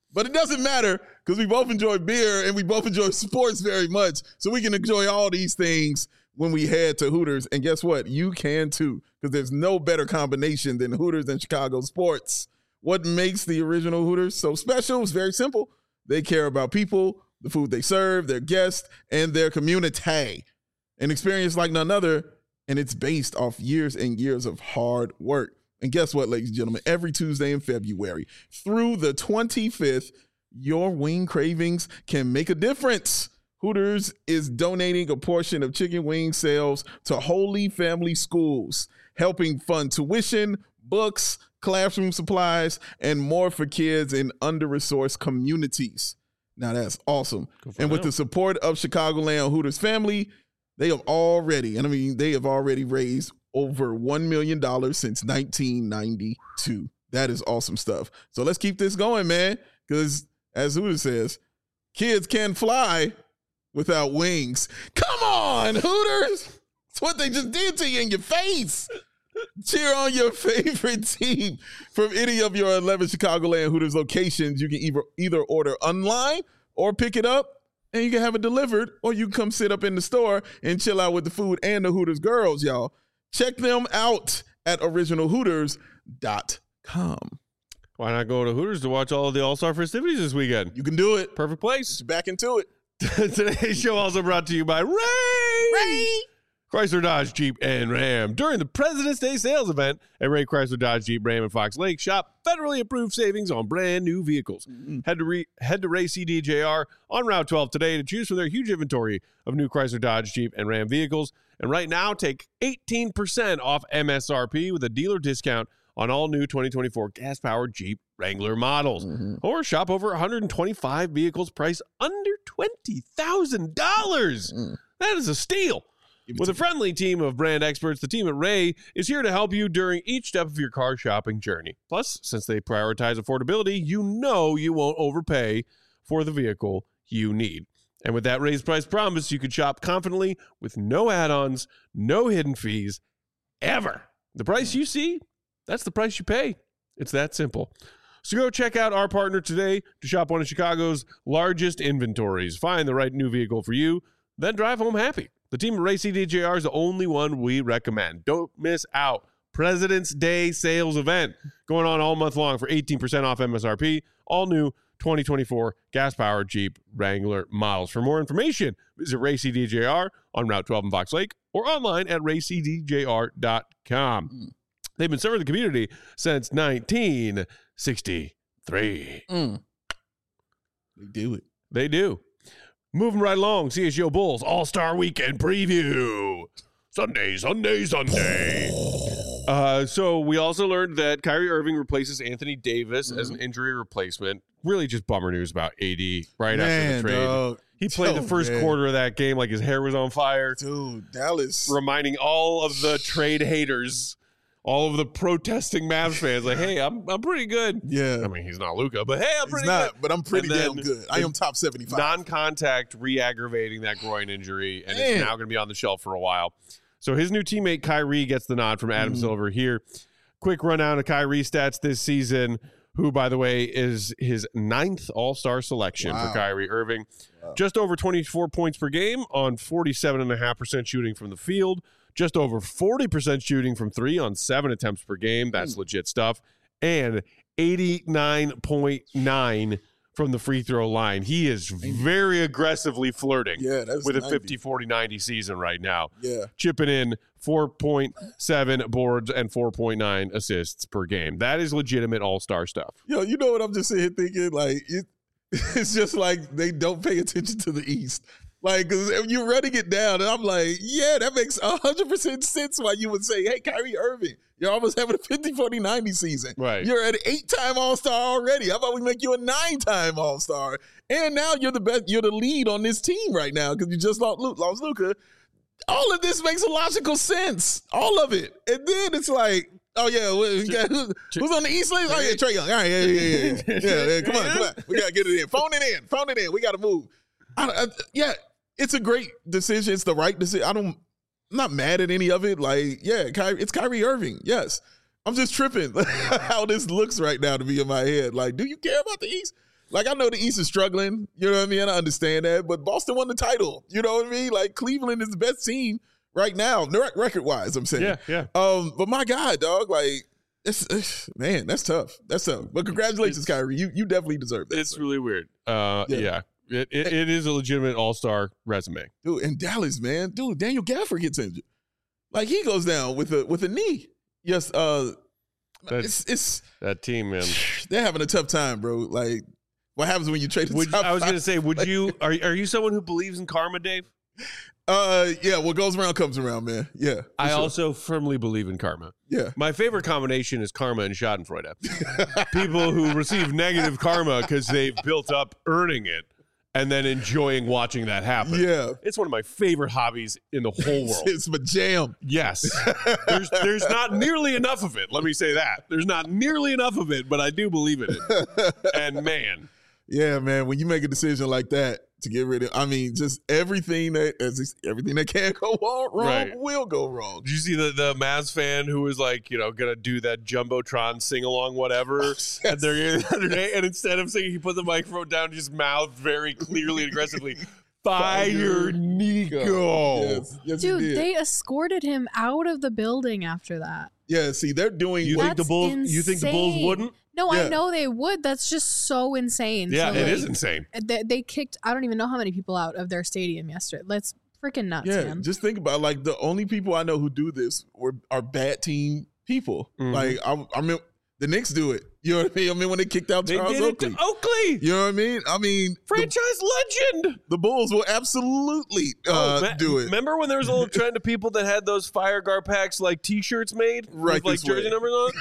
But it doesn't matter because we both enjoy beer and we both enjoy sports very much. So we can enjoy all these things when we head to Hooters. And guess what? You can too, because there's no better combination than Hooters and Chicago sports. What makes the original Hooters so special is very simple. They care about people, the food they serve, their guests, and their community. An experience like none other, and it's based off years and years of hard work. And guess what, ladies and gentlemen? Every Tuesday in February through the twenty-fifth, your wing cravings can make a difference. Hooters is donating a portion of chicken wing sales to Holy Family Schools, helping fund tuition, books, classroom supplies, and more for kids in under-resourced communities. Now that's awesome. And with the support of Chicagoland Hooters family, they have already, and I mean, they have already raised over one million dollars since nineteen ninety-two. That is awesome stuff. So let's keep this going, man, because as Hooters says, kids can fly without wings. Come on, Hooters. It's what they just did to you in your face. Cheer on your favorite team from any of your eleven Chicagoland Hooters locations. You can either, either order online or pick it up, and you can have it delivered, or you can come sit up in the store and chill out with the food and the Hooters girls, y'all. Check them out at original hooters dot com. Why not go to Hooters to watch all of the All-Star festivities this weekend? You can do it. Perfect place. Back into it. Today's show also brought to you by Ray. Ray. Chrysler, Dodge, Jeep, and Ram. During the President's Day sales event at Ray Chrysler, Dodge, Jeep, Ram, and Fox Lake, shop federally approved savings on brand new vehicles. Mm-hmm. Head to re- head to Ray C D J R on Route twelve today to choose from their huge inventory of new Chrysler, Dodge, Jeep, and Ram vehicles. And right now, take eighteen percent off M S R P with a dealer discount on all new twenty twenty-four gas-powered Jeep Wrangler models. Mm-hmm. Or shop over one hundred twenty-five vehicles priced under twenty thousand dollars. Mm. That is a steal. With a friendly team of brand experts, the team at Ray is here to help you during each step of your car shopping journey. Plus, since they prioritize affordability, you know you won't overpay for the vehicle you need. And with that raised price promise, you can shop confidently with no add-ons, no hidden fees, ever. The price you see, that's the price you pay. It's that simple. So go check out our partner today to shop one of Chicago's largest inventories. Find the right new vehicle for you, then drive home happy. The team at Ray C D J R is the only one we recommend. Don't miss out. President's Day sales event going on all month long for eighteen percent off M S R P. All new twenty twenty-four gas-powered Jeep Wrangler models. For more information, visit Ray C D J R on Route twelve in Fox Lake or online at ray c d j r dot com. Mm. They've been serving the community since nineteen sixty-three. Mm. They do it. They do. Moving right along, C S U Bulls All-Star Weekend Preview. Sunday, Sunday, Sunday. Uh, so we also learned that Kyrie Irving replaces Anthony Davis mm-hmm. as an injury replacement. Really just bummer news about A D right man, after the trade. Dog. He played oh, the first man. quarter of that game like his hair was on fire. Dude, Dallas. Reminding all of the trade haters, all of the protesting Mavs fans, like, hey, I'm I'm pretty good. Yeah. I mean, he's not Luka, but hey, I'm pretty he's not, good. But I'm pretty damn good. I am top seventy-five. Non-contact re-aggravating that groin injury, and Man. it's now going to be on the shelf for a while. So his new teammate Kyrie gets the nod from Adam mm. Silver here. Quick rundown of Kyrie stats this season, who, by the way, is his ninth All-Star selection wow. for Kyrie Irving. Wow. Just over twenty-four points per game on forty-seven point five percent shooting from the field. Just over forty percent shooting from three on seven attempts per game. That's mm. legit stuff. And eighty-nine point nine from the free throw line. He is very aggressively flirting yeah, that's with ninety. a fifty forty ninety season right now. Yeah. Chipping in four point seven boards and four point nine assists per game. That is legitimate all-star stuff. Yo, you know what I'm just sitting here thinking? Like, it, it's just like they don't pay attention to the East. Like, cause you're running it down, and I'm like, yeah, that makes one hundred percent sense why you would say, hey, Kyrie Irving, you're almost having a fifty forty ninety season. Right. You're an eight-time All-Star already. How about we make you a nine-time All-Star? And now you're the best, you're the lead on this team right now because you just lost, lost Luka. All of this makes a logical sense. All of it. And then it's like, oh, yeah, we got, who's, who's on the East Lane? Oh, yeah, Trae Young. All right, yeah, yeah, yeah. yeah, yeah, yeah. Come on, come on. We got to get it in. Phone it in. Phone it in. We got to move. I, I, yeah. It's a great decision. It's the right decision. I don't, I'm not mad at any of it. Like, yeah, Kyrie, it's Kyrie Irving. Yes. I'm just tripping how this looks right now to me in my head. Like, do you care about the East? Like, I know the East is struggling. You know what I mean? I understand that. But Boston won the title. You know what I mean? Like, Cleveland is the best team right now, record-wise, I'm saying. Yeah, yeah. Um, but my God, dog, like, it's, it's man, that's tough. That's tough. But congratulations, Kyrie. You you definitely deserve that. It's sir. really weird. Uh, yeah. Yeah. It, it, it is a legitimate all-star resume. Dude, in Dallas, man. Dude, Daniel Gafford gets injured. Like, he goes down with a with a knee. Yes, uh, That- it's it's That team, man. they're having a tough time, bro. Like, what happens when you trade the Would, top I was five? going to say, would you are are you someone who believes in karma, Dave? Uh, yeah, what goes around comes around, man. Yeah, for I sure. also firmly believe in karma. yeah. My favorite combination is karma and Schadenfreude. People who receive negative karma because they've built up earning it and then enjoying watching that happen. Yeah. It's one of my favorite hobbies in the whole world. It's my jam. Yes. There's there's not nearly enough of it. Let me say that. There's not nearly enough of it, but I do believe in it. And man, Yeah, man. When you make a decision like that to get rid of, I mean, just everything that as everything that can go wrong, wrong Right. will go wrong. did you see the, the Mavs fan who was like, you know, gonna do that Jumbotron sing along, whatever? And they're the other day, and instead of singing, he put the microphone down, and just mouthed very clearly and aggressively, "Fire Nico." Yes, yes, Dude, he did. they escorted him out of the building after that. yeah. See, they're doing. You what- think the That's Bulls? You think the Bulls insane. wouldn't? No, Yeah. I know they would. That's just so insane. Yeah, So, it like, is insane. They, they kicked, I don't even know how many people out of their stadium yesterday. That's freaking nuts, Yeah, man. just think about like the only people I know who do this were are bad team people. Mhm. Like I, I mean, the Knicks do it. You know what I mean? I mean when they kicked out They Charles did it Oakley. to Oakley, You know what I mean? I mean, the, franchise legend. the Bulls will absolutely uh, Oh, ma- do it. Remember when there was a little trend of people that had those Fire Guard packs like T-shirts made Right with like this jersey way. numbers on?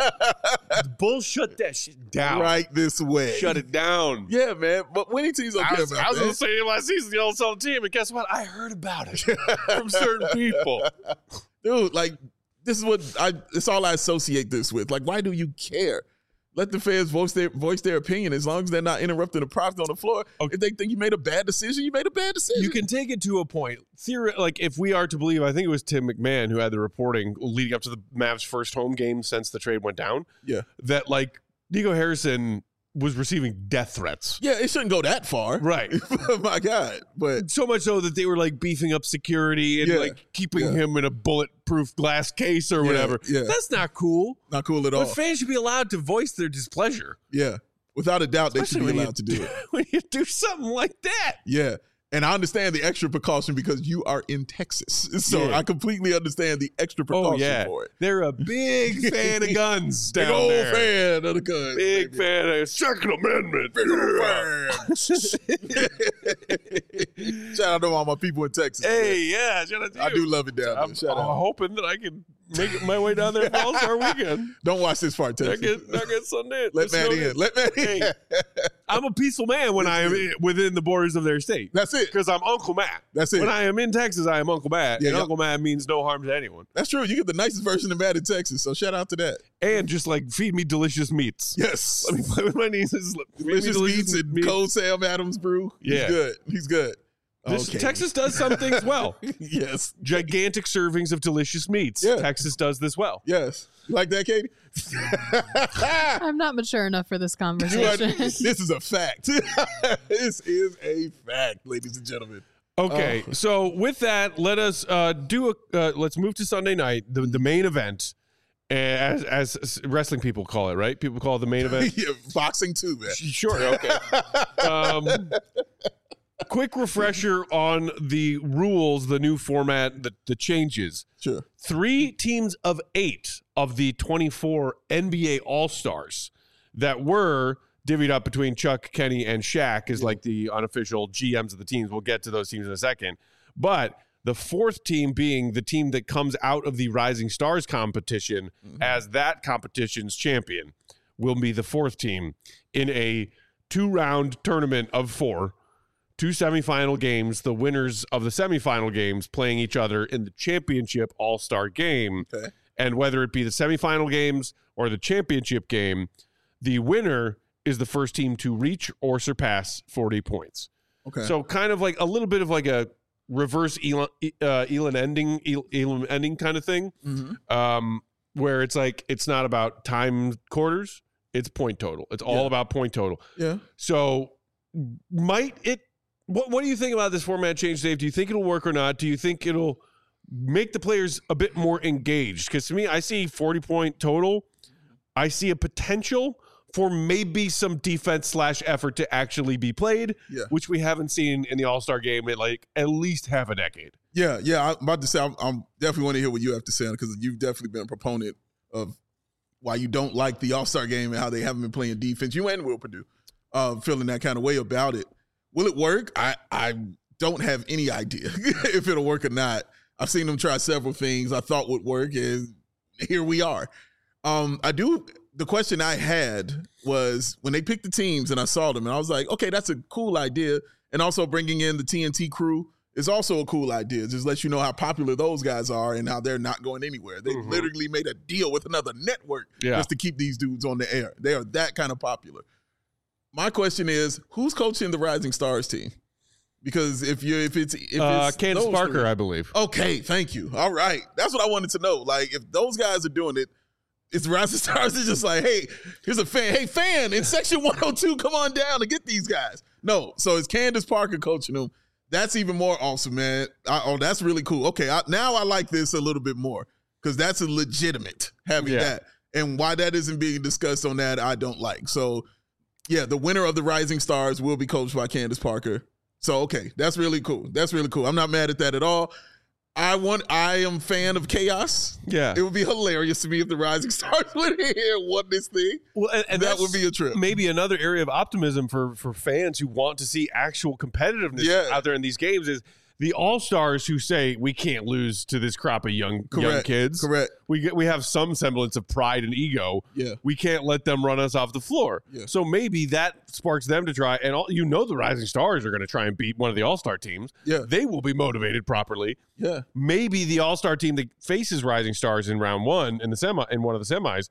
The Bulls shut that shit down. Right this way. Shut it down. Yeah, man. But winning teams don't I care was, about I was that. in the stadium last season, the old sell team, and guess what? I heard about it from certain people. Dude, like this is what I. It's all I associate this with. Like, why do you care? Let the fans voice their voice their opinion as long as they're not interrupting the product on the floor. Okay. If they think you made a bad decision, you made a bad decision. You can take it to a point. Theory, like if we are to believe, I think it was Tim McMahon who had the reporting leading up to the Mavs' first home game since the trade went down. Yeah. That like Nico Harrison was receiving death threats. Yeah, it shouldn't go that far. Right. My God. But So much so that they were like beefing up security and Yeah. like keeping Yeah. him in a bulletproof glass case or Yeah, whatever. yeah. That's not cool. not cool at all. But fans should be allowed to voice their displeasure. Yeah. Without a doubt, they should Especially be when allowed to you do it. When you do something like that. Yeah. And I understand the extra precaution because you are in Texas. So Yeah. I completely understand the extra precaution Oh yeah, for it. they're a big fan of guns Big down old there. fan of the guns. Big baby. fan of Second Amendment. Big old fan. Shout out to all my people in Texas. man. Hey, yeah, shout out to I you. do love it down there. I'm, Shout I'm out. hoping that I can make it my way down there for All Star Weekend. Don't watch this part, Not Texas. get, not get Sunday. Let Matt in. Let Matt in. Hey. I'm a peaceful man when I am in- within the borders of their state. That's it. Because I'm Uncle Matt. That's it. When I am in Texas, I am Uncle Matt. Yeah, and yeah. Uncle Matt means no harm to anyone. That's true. You get the nicest version of Matt in Texas. So shout out to that. And just like feed me delicious meats. Yes. Let me play with my nieces. Feed me Delicious meats and cold Sam Adams brew. Yeah. He's good. He's good. This- Okay. Texas does some things well. Yes. Gigantic servings of delicious meats. Yeah. Texas does this well. Yes. You like that, Katie? I'm not mature enough for this You are- conversation. this is a fact. This is a fact, ladies and gentlemen. Okay, Oh. so with that, let us uh, do a. Uh, let's move to Sunday night, the the main event, as as wrestling people call it, right? People call it the main event. Yeah, boxing too, man. Sure. Okay. Um, quick refresher on the rules, the new format, the the changes. Sure. Three teams of eight of the twenty-four N B A All-Stars that were divvied up between Chuck, Kenny, and Shaq is like the unofficial G Ms of the teams. We'll get to those teams in a second. But the fourth team being the team that comes out of the Rising Stars competition Mm-hmm. as that competition's champion will be the fourth team in a two-round tournament of four. Two semifinal games, the winners of the semifinal games playing each other in the championship all-star game. Okay. And whether it be the semifinal games or the championship game, the winner is the first team to reach or surpass forty points. Okay. So kind of like a little bit of like a reverse Elon, uh, Elon ending, El- Elon ending kind of thing, Mhm. um, where it's like it's not about time quarters. It's point total. It's all Yeah. about point total. Yeah. So might it what what do you think about this format change, Dave? Do you think it'll work or not? Do you think it'll make the players a bit more engaged? Because to me, I see forty point total. I see a potential for maybe some defense slash effort to actually be played, Yeah. which we haven't seen in the All-Star game in like at least half a decade. Yeah, yeah. I'm about to say, I'm, I'm definitely want to hear what you have to say on it because you've definitely been a proponent of why you don't like the All-Star game and how they haven't been playing defense. You and Will Purdue uh, feeling that kind of way about it. Will it work? I, I don't have any idea if it'll work or not. I've seen them try several things I thought would work, and here we are. Um, I do. The question I had was when they picked the teams and I saw them, and I was like, okay, that's a cool idea. And also bringing in the T N T crew is also a cool idea. Just let you know how popular those guys are and how they're not going anywhere. They Mhm. literally made a deal with another network Yeah. just to keep these dudes on the air. They are that kind of popular. My question is, who's coaching the Rising Stars team? Because if you if it's if Uh, it's Candace those Parker, three- I believe. Okay, thank you. All right. That's what I wanted to know. Like, if those guys are doing it, it's Rising Stars is just like, hey, here's a fan. Hey, fan, in section one oh two, come on down and get these guys. No, so it's Candace Parker coaching them. That's even more awesome, man. I, oh, that's really cool. Okay, I, now I like this a little bit more because that's a legitimate having Yeah. that. And why that isn't being discussed on that, I don't like. So, yeah, the winner of the Rising Stars will be coached by Candace Parker. So, okay, that's really cool. That's really cool. I'm not mad at that at all. I want. I am a fan of chaos. Yeah. It would be hilarious to me if the Rising Stars went in here and won this thing. Well, and, and That that's would be a trip. Maybe another area of optimism for for fans who want to see actual competitiveness Yeah. out there in these games is the all-stars who say we can't lose to this crop of young young Correct. kids. Correct. We get, we have some semblance of pride and ego. Yeah. We can't let them run us off the floor. Yeah. So maybe that sparks them to try. And all, you know the Rising Stars are going to try and beat one of the all-star teams. Yeah. They will be motivated properly. Yeah. Maybe the all-star team that faces Rising Stars in round one in the semi in one of the semis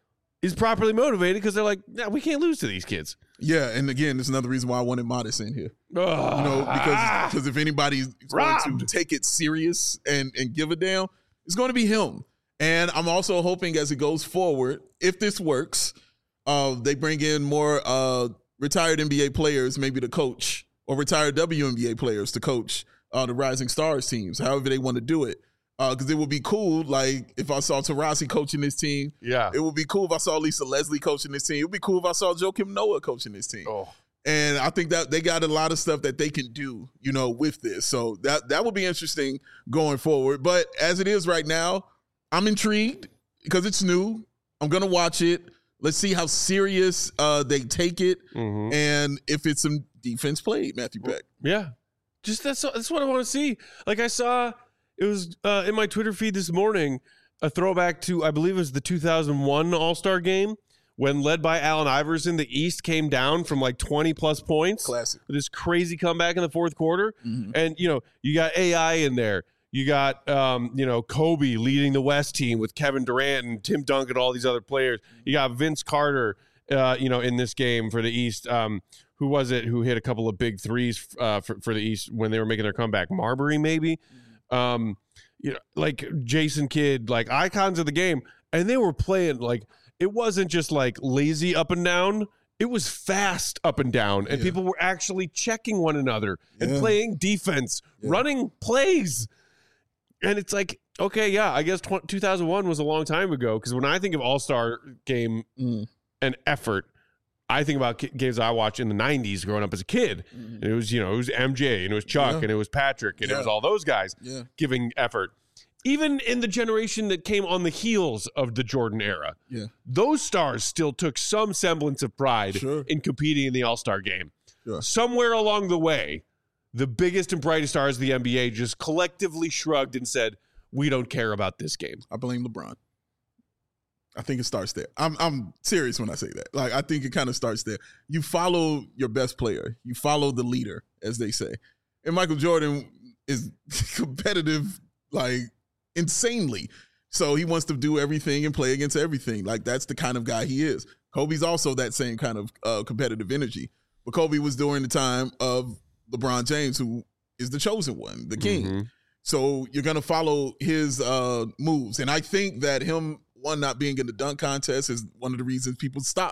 is properly motivated because they're like, nah, we can't lose to these kids. Yeah. And again, there's another reason why I wanted Modest in here. Ugh. You know, because because if anybody's going to Robbed. take it serious and and give a damn, it's going to be him. And I'm also hoping as it goes forward, if this works, uh, they bring in more uh, retired N B A players, maybe to coach, or retired W N B A players to coach uh, the Rising Stars teams, however they want to do it. Because it would be cool, like if I saw Taurasi coaching this team. Yeah. It would be cool if I saw Lisa Leslie coaching this team. It would be cool if I saw Joakim Noah coaching this team. Oh. And I think that they got a lot of stuff that they can do, you know, with this. So that that would be interesting going forward. But as it is right now, I'm intrigued because it's new. I'm going to watch it. Let's see how serious uh, they take it Mhm. and if it's some defense played, Matthew Beck. Yeah. Just that's that's what I want to see. Like I saw it was uh, in my Twitter feed this morning, a throwback to I believe it was the two thousand one All-Star game when led by Allen Iverson, the East came down from like twenty plus points. Classic. With this crazy comeback in the fourth quarter. Mhm. And you know, you got A I in there. You got um, you know, Kobe leading the West team with Kevin Durant and Tim Duncan, all these other players. You got Vince Carter uh, you know, in this game for the East. Um, who was it who hit a couple of big threes uh, for, for the East when they were making their comeback? Marbury, maybe? Um, you know, like Jason Kidd, like icons of the game. And they were playing like, it wasn't just like lazy up and down. It was fast up and down. And Yeah. people were actually checking one another and Yeah. playing defense, Yeah. running plays. And it's like, okay, yeah, I guess tw- two thousand one was a long time ago. Because when I think of All-Star game Mm. and effort, I think about ki- games I watched in the nineties growing up as a kid. And it was, you know, it was M J and it was Chuck Yeah. and it was Patrick and it Yeah. was all those guys Yeah. giving effort. Even in the generation that came on the heels of the Jordan era, Yeah. those stars still took some semblance of pride Sure. in competing in the All-Star game. Sure. Somewhere along the way, the biggest and brightest stars of the N B A just collectively shrugged and said, we don't care about this game. I blame LeBron. I think it starts there. I'm I'm serious when I say that. Like I think it kind of starts there. You follow your best player. You follow the leader, as they say. And Michael Jordan is competitive, like insanely. So he wants to do everything and play against everything. Like that's the kind of guy he is. Kobe's also that same kind of uh, competitive energy. But Kobe was during the time of LeBron James, who is the chosen one, the king. Mhm. So you're going to follow his uh, moves. And I think that him, one, not being in the dunk contest is one of the reasons people stopped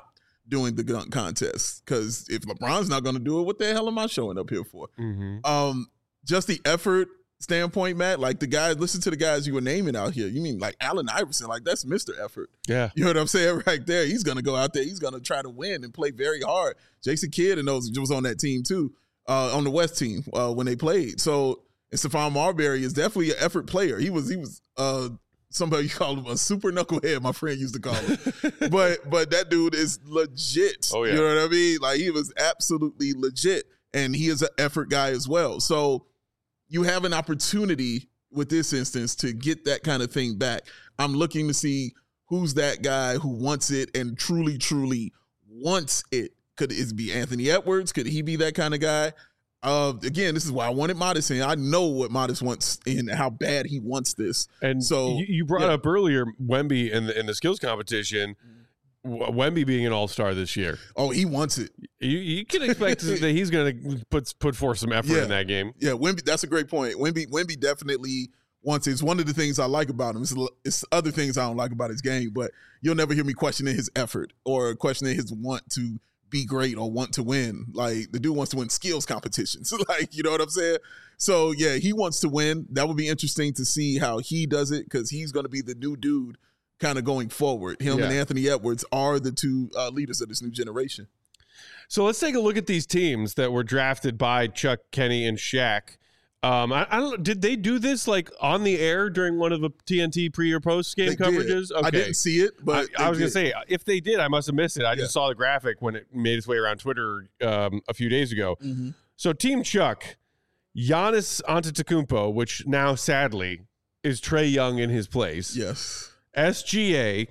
doing the dunk contest. Because if LeBron's not going to do it, what the hell am I showing up here for? Mm-hmm. Um, just the effort standpoint, Matt, like the guys, listen to the guys you were naming out here. You mean like Allen Iverson, like that's Mister Effort. Yeah. You know what I'm saying? Right there. He's going to go out there. He's going to try to win and play very hard. Jason Kidd and those was on that team too, uh, on the West team uh, when they played. So, and Stephon Marbury is definitely an effort player. He was, he was uh, somebody you called him a super knucklehead, my friend used to call him. but but that dude is legit. Oh, yeah. You know what I mean? Like he was absolutely legit. And he is an effort guy as well. So, you have an opportunity with this instance to get that kind of thing back. I'm looking to see who's that guy who wants it and truly, truly wants it. Could it be Anthony Edwards? Could he be that kind of guy? Uh, again, this is why I wanted Modest in. I know what Modest wants and how bad he wants this. And so you, you brought yeah. up earlier Wemby in the in the skills competition. Wemby being an all-star this year. Oh, he wants it. You, you can expect that he's going to put put forth some effort Yeah. in that game. Yeah, Wemby, that's a great point. Wemby, Wemby definitely wants it. It's one of the things I like about him. It's, it's other things I don't like about his game, but you'll never hear me questioning his effort or questioning his want to be great or want to win. Like, the dude wants to win skills competitions. Like, you know what I'm saying? So, yeah, he wants to win. That would be interesting to see how he does it because he's going to be the new dude kind of going forward. Him Yeah. and Anthony Edwards are the two uh, leaders of this new generation. So let's take a look at these teams that were drafted by Chuck, Kenny, and Shaq. Um, I, I don't. Did they do this like on the air during one of the T N T pre or post game They did. coverages? Okay. I didn't see it, but I, I was they going to did. say, if they did, I must have missed it. I Yeah. just saw the graphic when it made its way around Twitter um, a few days ago. Mhm. So Team Chuck, Giannis Antetokounmpo, which now sadly is Trae Young in his place. Yes. S G A,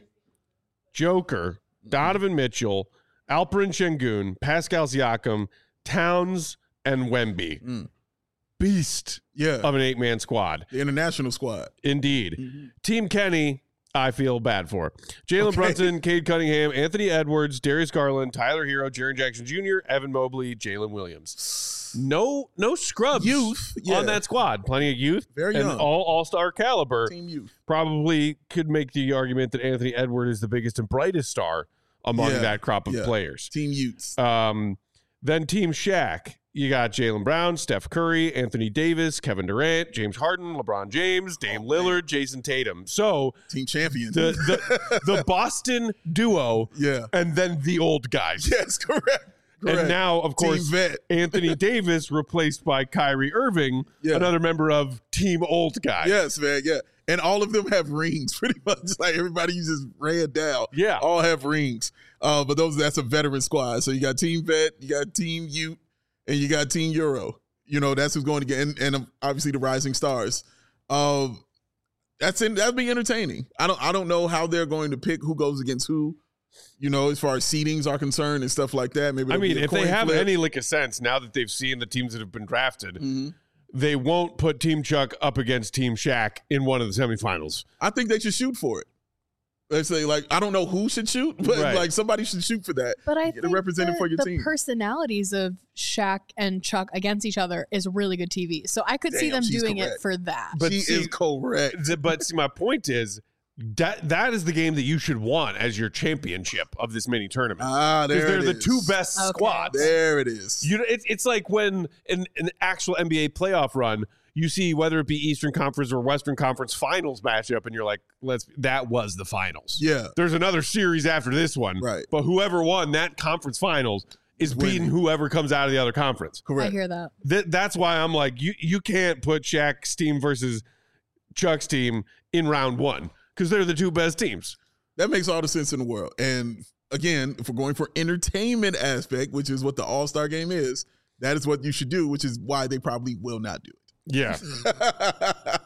Joker, Donovan Mitchell, Alperen Şengün, Pascal Siakam, Towns, and Wemby. Mm. Beast Yeah. of an eight-man squad. The international squad. Indeed. Mhm. Team Kenny, I feel bad for. Jalen Okay. Brunson, Cade Cunningham, Anthony Edwards, Darius Garland, Tyler Hero, Jaren Jackson Junior, Evan Mobley, Jalen Williams. No no scrubs Youth, yeah. on that squad. Plenty of youth. Very and young. all all-star caliber. Team youth. Probably could make the argument that Anthony Edwards is the biggest and brightest star among Yeah. that crop of Yeah. players. Team youths. Um, then Team Shaq, you got Jaylen Brown, Steph Curry, Anthony Davis, Kevin Durant, James Harden, LeBron James, Dame Oh, Lillard, man. Jason Tatum. So Team champion. the the, the Boston duo, yeah. and then the old guys. Yes, correct. correct. And now, of Team course, vet. Anthony Davis replaced by Kyrie Irving, Yeah. another member of Team Old Guy. Yes, man. Yeah. And all of them have rings, pretty much. Like everybody you just ran down. Yeah. All have rings. Uh, but those that's a veteran squad. So you got Team Vet, you got Team Ute, and you got Team Euro. You know, that's who's going to get, and, and um, obviously the Rising Stars. Um, that's in, that'd be entertaining. I don't I don't know how they're going to pick who goes against who. You know, as far as seedings are concerned and stuff like that. Maybe I there'll be mean, a if they coin have flip. any lick of sense, now that they've seen the teams that have been drafted, Mhm. they won't put Team Chuck up against Team Shaq in one of the semifinals. I think they should shoot for it. They say, like, I don't know who should shoot, but Right. like somebody should shoot for that. But I Get a think representative the, for your the team. personalities of Shaq and Chuck against each other is really good T V. So I could see Damn, them she's doing correct. it for that. But she see- is correct. But see, my point is that that is the game that you should want as your championship of this mini tournament. Ah, there Because they're it the is. two best Okay. squads. There it is. You know, it's it's like when in an actual N B A playoff run, you see whether it be Eastern Conference or Western Conference Finals matchup, and you're like, "Let's." That was the finals. Yeah. There's another series after this one, Right. But whoever won that conference finals is beating winning. whoever comes out of the other conference. I Correct. hear that. Th- that's why I'm like, you you can't put Shaq's team versus Chuck's team in round one because they're the two best teams. That makes all the sense in the world. And again, if we're going for entertainment aspect, which is what the All-Star game is, that is what you should do, which is why they probably will not do Yeah, it.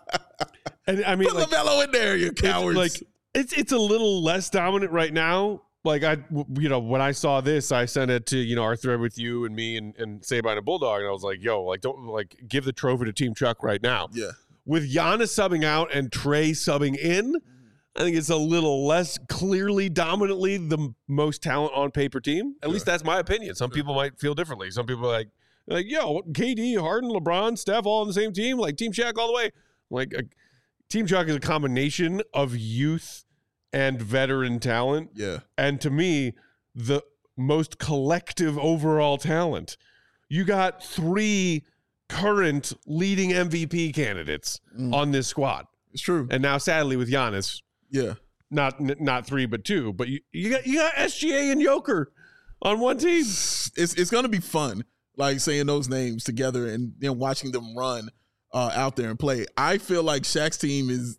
and I mean, Put like, LaMelo in there, you it's cowards. like it's it's a little less dominant right now. Like I, you know, when I saw this, I sent it to you know our thread with you and me and and Sabine and Bulldog, and I was like, yo, like don't like give the trophy to Team Chuck right now. yeah. With Giannis subbing out and Trae subbing in, I think it's a little less clearly, dominantly the m- most talent on paper team. At least that's my opinion. Some people might feel differently. Some people are like, like, yo, K D, Harden, LeBron, Steph, all on the same team, like Team Shaq all the way. Like, uh, Team Chuck is a combination of youth and veteran talent. Yeah. And to me, the most collective overall talent. You got three current leading M V P candidates Mm. on this squad. It's true. And now, sadly, with Giannis, Yeah. not n- not three but two. But you, you got you got S G A and Joker on one team. It's it's gonna be fun, like saying those names together and then watching them run uh, out there and play. I feel like Shaq's team is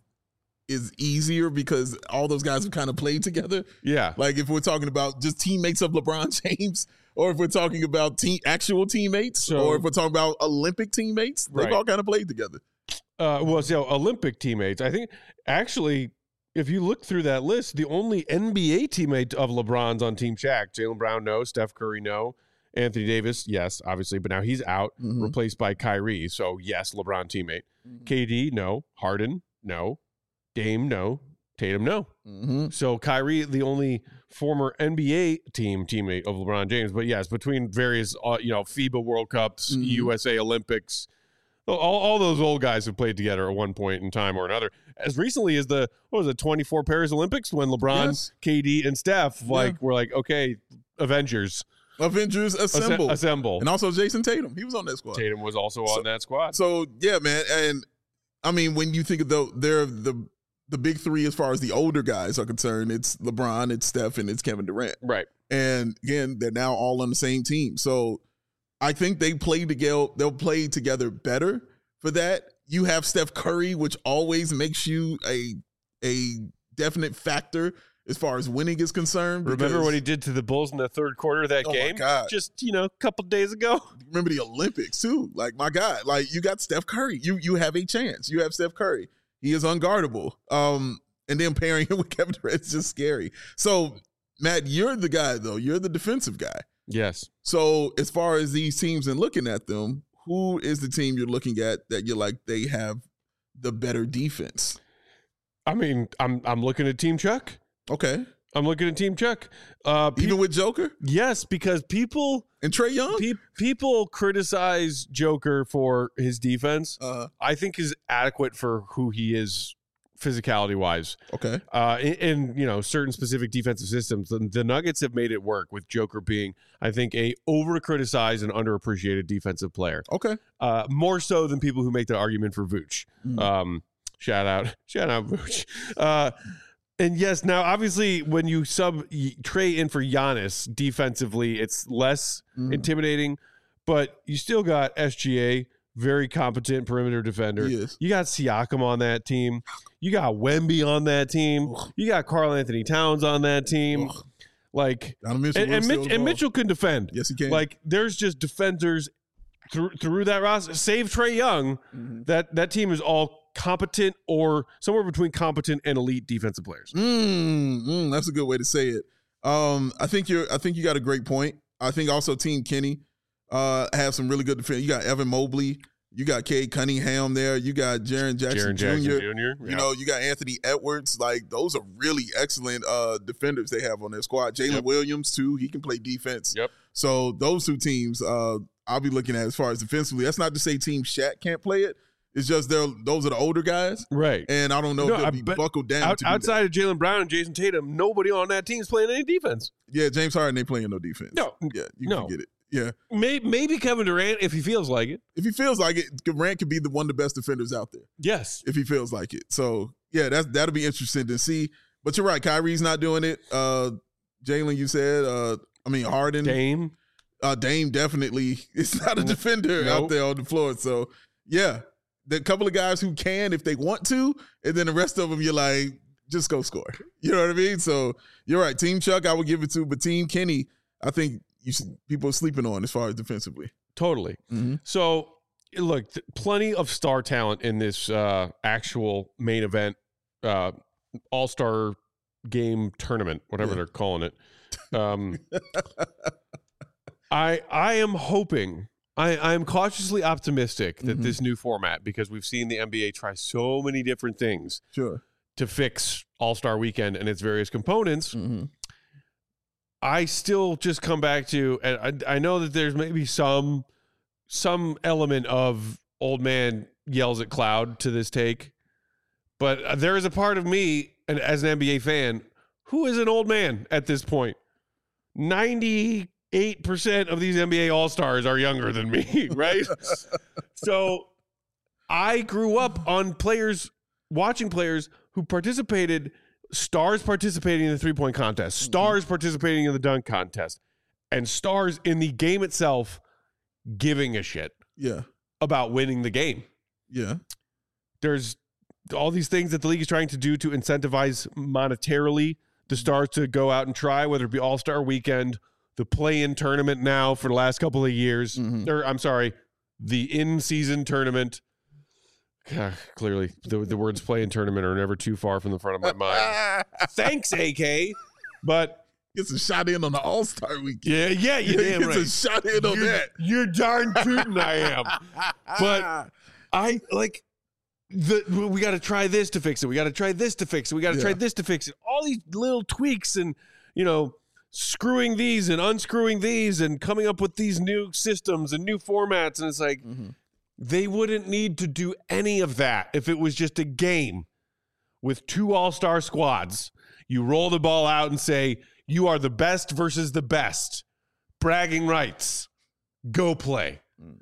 is easier because all those guys have kind of played together. Yeah. Like if we're talking about just teammates of LeBron James, or if we're talking about team actual teammates, So- or if we're talking about Olympic teammates, they've Right. all kind of played together. Uh, well, so Olympic teammates. I think actually, if you look through that list, the only N B A teammate of LeBron's on Team Shaq, Jaylen Brown, no. Steph Curry, no. Anthony Davis, yes, obviously, but now he's out, Mhm. replaced by Kyrie. So yes, LeBron teammate. Mhm. K D, no. Harden, no. Dame, no. Tatum, no. Mm-hmm. So Kyrie, the only former N B A team teammate of LeBron James. But yes, between various, uh, you know, FIBA World Cups, Mhm. U S A Olympics, all, all those old guys have played together at one point in time or another. As recently as the, what was it, twenty-four Paris Olympics when LeBron, Yes. K D, and Steph, like, Yeah. were like, okay, Avengers, Avengers assemble, assemble. assemble. and also Jason Tatum. He was on that squad. Tatum was also So- on that squad. So yeah, man, and I mean when you think of the they're the the big three as far as the older guys are concerned, it's LeBron, it's Steph, and it's Kevin Durant. Right. And again, they're now all on the same team. So I think they play together. They'll play together better for that. You have Steph Curry, which always makes you a a definite factor as far as winning is concerned. Remember because- what he did to the Bulls in the third quarter of that Oh, my game? God. Just, you know, a couple days ago. remember the Olympics too. Like my God, like you got Steph Curry. You you have a chance. You have Steph Curry. He is unguardable. Um, and then pairing him with Kevin Durant is just scary. So Matt, you're the guy though. You're the defensive guy. Yes. So as far as these teams and looking at them, who is the team you're looking at that you're like they have the better defense? I mean, I'm I'm looking at Team Chuck. Okay, I'm looking at Team Chuck. Uh, pe- even with Joker yes, because people and Trae Young. pe- people criticize Joker for his defense. Uh, I think is adequate for who he is, physicality wise. okay, Uh, in, in you know certain specific defensive systems, the, the Nuggets have made it work with Joker being, I think, a over criticized and underappreciated defensive player. okay. Uh, more so than people who make the argument for Vooch. Mm. Um, shout out, shout out Vooch. Uh, and yes, now obviously when you sub y- Trey in for Giannis defensively, it's less Mhm. intimidating, but you still got S G A, very competent perimeter defender. He is. You got Siakam on that team. You got Wemby on that team. Ugh. You got Karl Anthony Towns on that team. Ugh. Like, Donovan Mitchell and, will and, steal Mitch, the and ball. Mitchell can defend. Yes, he can. Like, there's just defenders through through that roster. Save Trae Young. Mhm. That that team is all competent or somewhere between competent and elite defensive players. Mm, mm, that's a good way to say it. Um, I think you're. I think you got a great point. I think also Team Kenny uh, have some really good defense. You got Evan Mobley. You got Cade Cunningham there. You got Jaren Jackson Jaren Jackson Junior Junior You know, you got Anthony Edwards. Like those are really excellent uh, defenders they have on their squad. Jalen Yep. Williams too. He can play defense. Yep. So those two teams, uh, I'll be looking at as far as defensively. That's not to say Team Shaq can't play it. It's just they're those are the older guys, right. and I don't know No, if they'll I be bet- buckled down. Out, to do that. outside of Jalen Brown and Jason Tatum, nobody on that team is playing any defense. Yeah, James Harden ain't playing no defense. No. Yeah, you No. can get it. Yeah. Maybe, maybe Kevin Durant if he feels like it. If he feels like it, Durant could be the one of the best defenders out there Yes. if he feels like it. So yeah, that's that'll be interesting to see. But you're right, Kyrie's not doing it. Uh Jalen, you said, uh, I mean Harden. Dame. Uh Dame definitely is not a defender Nope. out there on the floor. So yeah. The couple of guys who can if they want to, and then the rest of them you're like, just go score. You know what I mean? So you're right. Team Chuck, I would give it to, but Team Kenny, I think you should, people are sleeping on as far as defensively. Totally. Mm-hmm. So, look, th- plenty of star talent in this uh, actual main event, uh, All Star Game tournament, whatever Yeah. they're calling it. Um, I I am hoping. I, I am cautiously optimistic that Mhm. this new format, because we've seen the N B A try so many different things Sure. to fix All Star Weekend and its various components. Mm-hmm. I still just come back to, and I, I know that there's maybe some some element of old man yells at cloud to this take, but there is a part of me, and as an N B A fan, who is an old man at this point. ninety-eight percent of these N B A All-Stars are younger than me, right? So I grew up on players, watching players who participated, stars participating in the three-point contest, stars participating in the dunk contest, and stars in the game itself giving a shit Yeah. about winning the game. Yeah. There's all these things that the league is trying to do to incentivize monetarily the stars to go out and try, whether it be All-Star Weekend, the play-in tournament now for the last couple of years, Mhm. or I'm sorry, the in-season tournament. God, clearly, the, the words play-in tournament are never too far from the front of my mind. Thanks, A K. But Gets a shot in on the All-Star weekend. yeah, yeah, you damn Gets right. a shot in on you're, that. You're darn tootin' I am. But I like the we got to try this to fix it. We got to try this to fix it. We got to Yeah. try this to fix it. All these little tweaks and, you know, screwing these and unscrewing these and coming up with these new systems and new formats. And it's like, Mhm. they wouldn't need to do any of that if it was just a game with two all-star squads. You roll the ball out and say, you are the best versus the best. Bragging rights. Go play.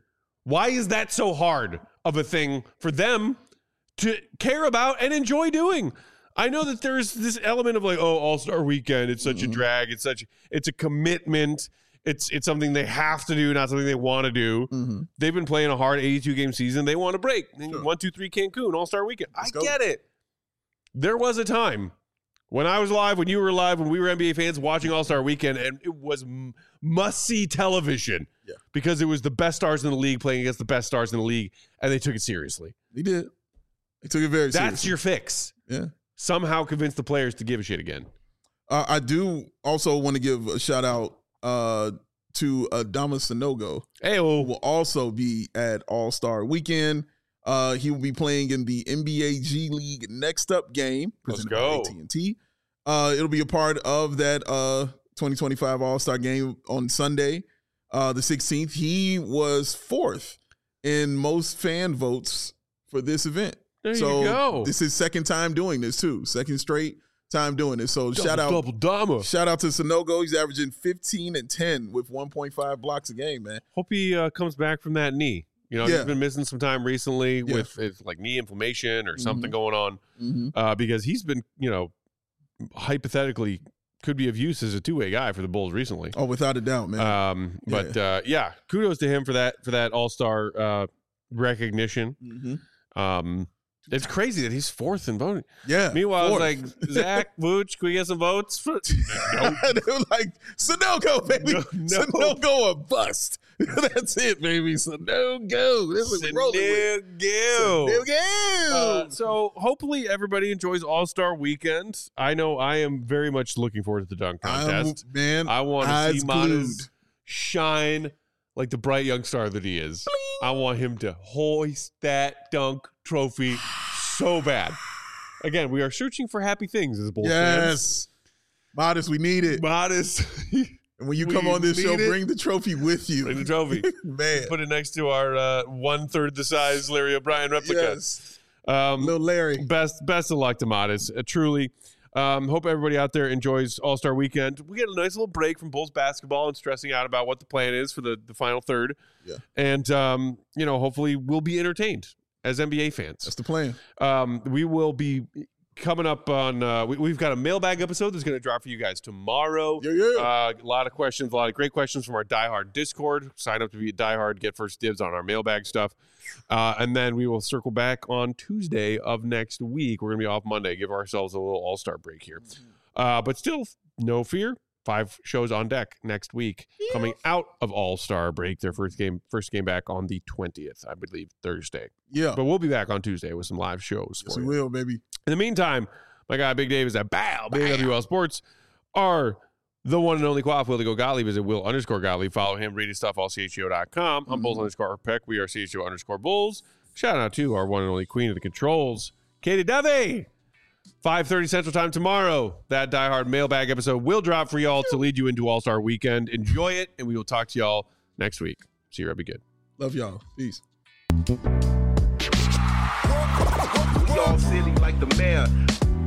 Why is that so hard of a thing for them to care about and enjoy doing? I know that there's this element of like, oh, All-Star Weekend, it's such a drag, it's such it's a commitment. It's it's something they have to do, not something they want to do. Mhm. They've been playing a hard eighty-two game season. They want to break. Sure. One, two, three, Cancun, All-Star Weekend. Let's I go. get it. There was a time when I was alive, when you were alive, when we were N B A fans watching All-Star Weekend, and it was m- must-see television Yeah. because it was the best stars in the league playing against the best stars in the league, and they took it seriously. He did. He took it very That's seriously. your fix. Yeah. Somehow convince the players to give a shit again. Uh, I do also want to give a shout out uh, to Adama Sanogo, Hey, who oh, will also be at All-Star Weekend. Uh, he will be playing in the N B A G League Next Up game. Let's presented by go. A T and T. Uh, it'll be a part of that uh, twenty twenty-five All-Star game on Sunday, uh, the sixteenth. He was fourth in most fan votes for this event. there so you go. this is his second time doing this too. Second straight time doing this. So shout out double Dama. Shout out to Sanogo. He's averaging fifteen and ten with one point five blocks a game, man. Hope he uh, comes back from that knee. You know, Yeah. he's been missing some time recently Yeah. with it's like knee inflammation or something Mhm. going on Mm-hmm. uh, because he's been, you know, hypothetically could be of use as a two-way guy for the Bulls recently. Oh, without a doubt, man. Um, but uh, yeah, kudos to him for that for that All-Star uh, recognition. mm-hmm. Um, it's crazy that he's fourth in voting. Yeah. Meanwhile, fourth. it's like Zach Vooch, can we get some votes? For- nope. they were like, Sanogo, baby. No, no. Sanogo or bust. That's it, baby. Sanogo. That's what we're rolling with. Sanogo. Sanogo. Uh, so hopefully everybody enjoys All-Star Weekend. I know I am very much looking forward to the dunk I'm, contest. man, I want to eyes see glued. Manas shine like the bright young star that he is. I want him to hoist that dunk trophy so bad. Again, we are searching for happy things as Bulls fans. Yes. Modest, we need it. Modest. And when you we come on this show, need it. bring the trophy with you. Bring the trophy. Man. Put it next to our uh, one-third the size Larry O'Brien replica. Yes. Um, Little Larry. best best of luck to Modest. Uh, truly. Um, hope everybody out there enjoys All-Star Weekend. We get a nice little break from Bulls basketball and stressing out about what the plan is for the, the final third. Yeah. And, um, you know, hopefully we'll be entertained as N B A fans. That's the plan. Um, we will be coming up on, uh, we, we've got a mailbag episode that's going to drop for you guys tomorrow. Yeah, yeah. Uh, a lot of questions, a lot of great questions from our Diehard Discord. Sign up to be a Diehard, get first dibs on our mailbag stuff. Uh, and then we will circle back on Tuesday of next week. We're going to be off Monday, give ourselves a little all-star break here. Uh, but still, no fear. Five shows on deck next week, coming out of All-Star break. Their first game, first game back on the twentieth, I believe, Thursday. Yeah. But we'll be back on Tuesday with some live shows Yes, for we you. will, baby. In the meantime, my guy Big Dave is at Bow, B W L Sports. Our the one and only Quaff, Will to go Gottlieb is at Will underscore Gottlieb. Follow him, read his stuff, all C H O dot com. I'm Bulls underscore Peck. We are C H O underscore Bulls. Shout out to our one and only queen of the controls, Katie Dovey. five thirty Central Time tomorrow. That Die Hard mailbag episode will drop for y'all to lead you into All-Star Weekend. Enjoy it, and we will talk to y'all next week. See you, be good. Love y'all. Peace. We all silly like the mayor.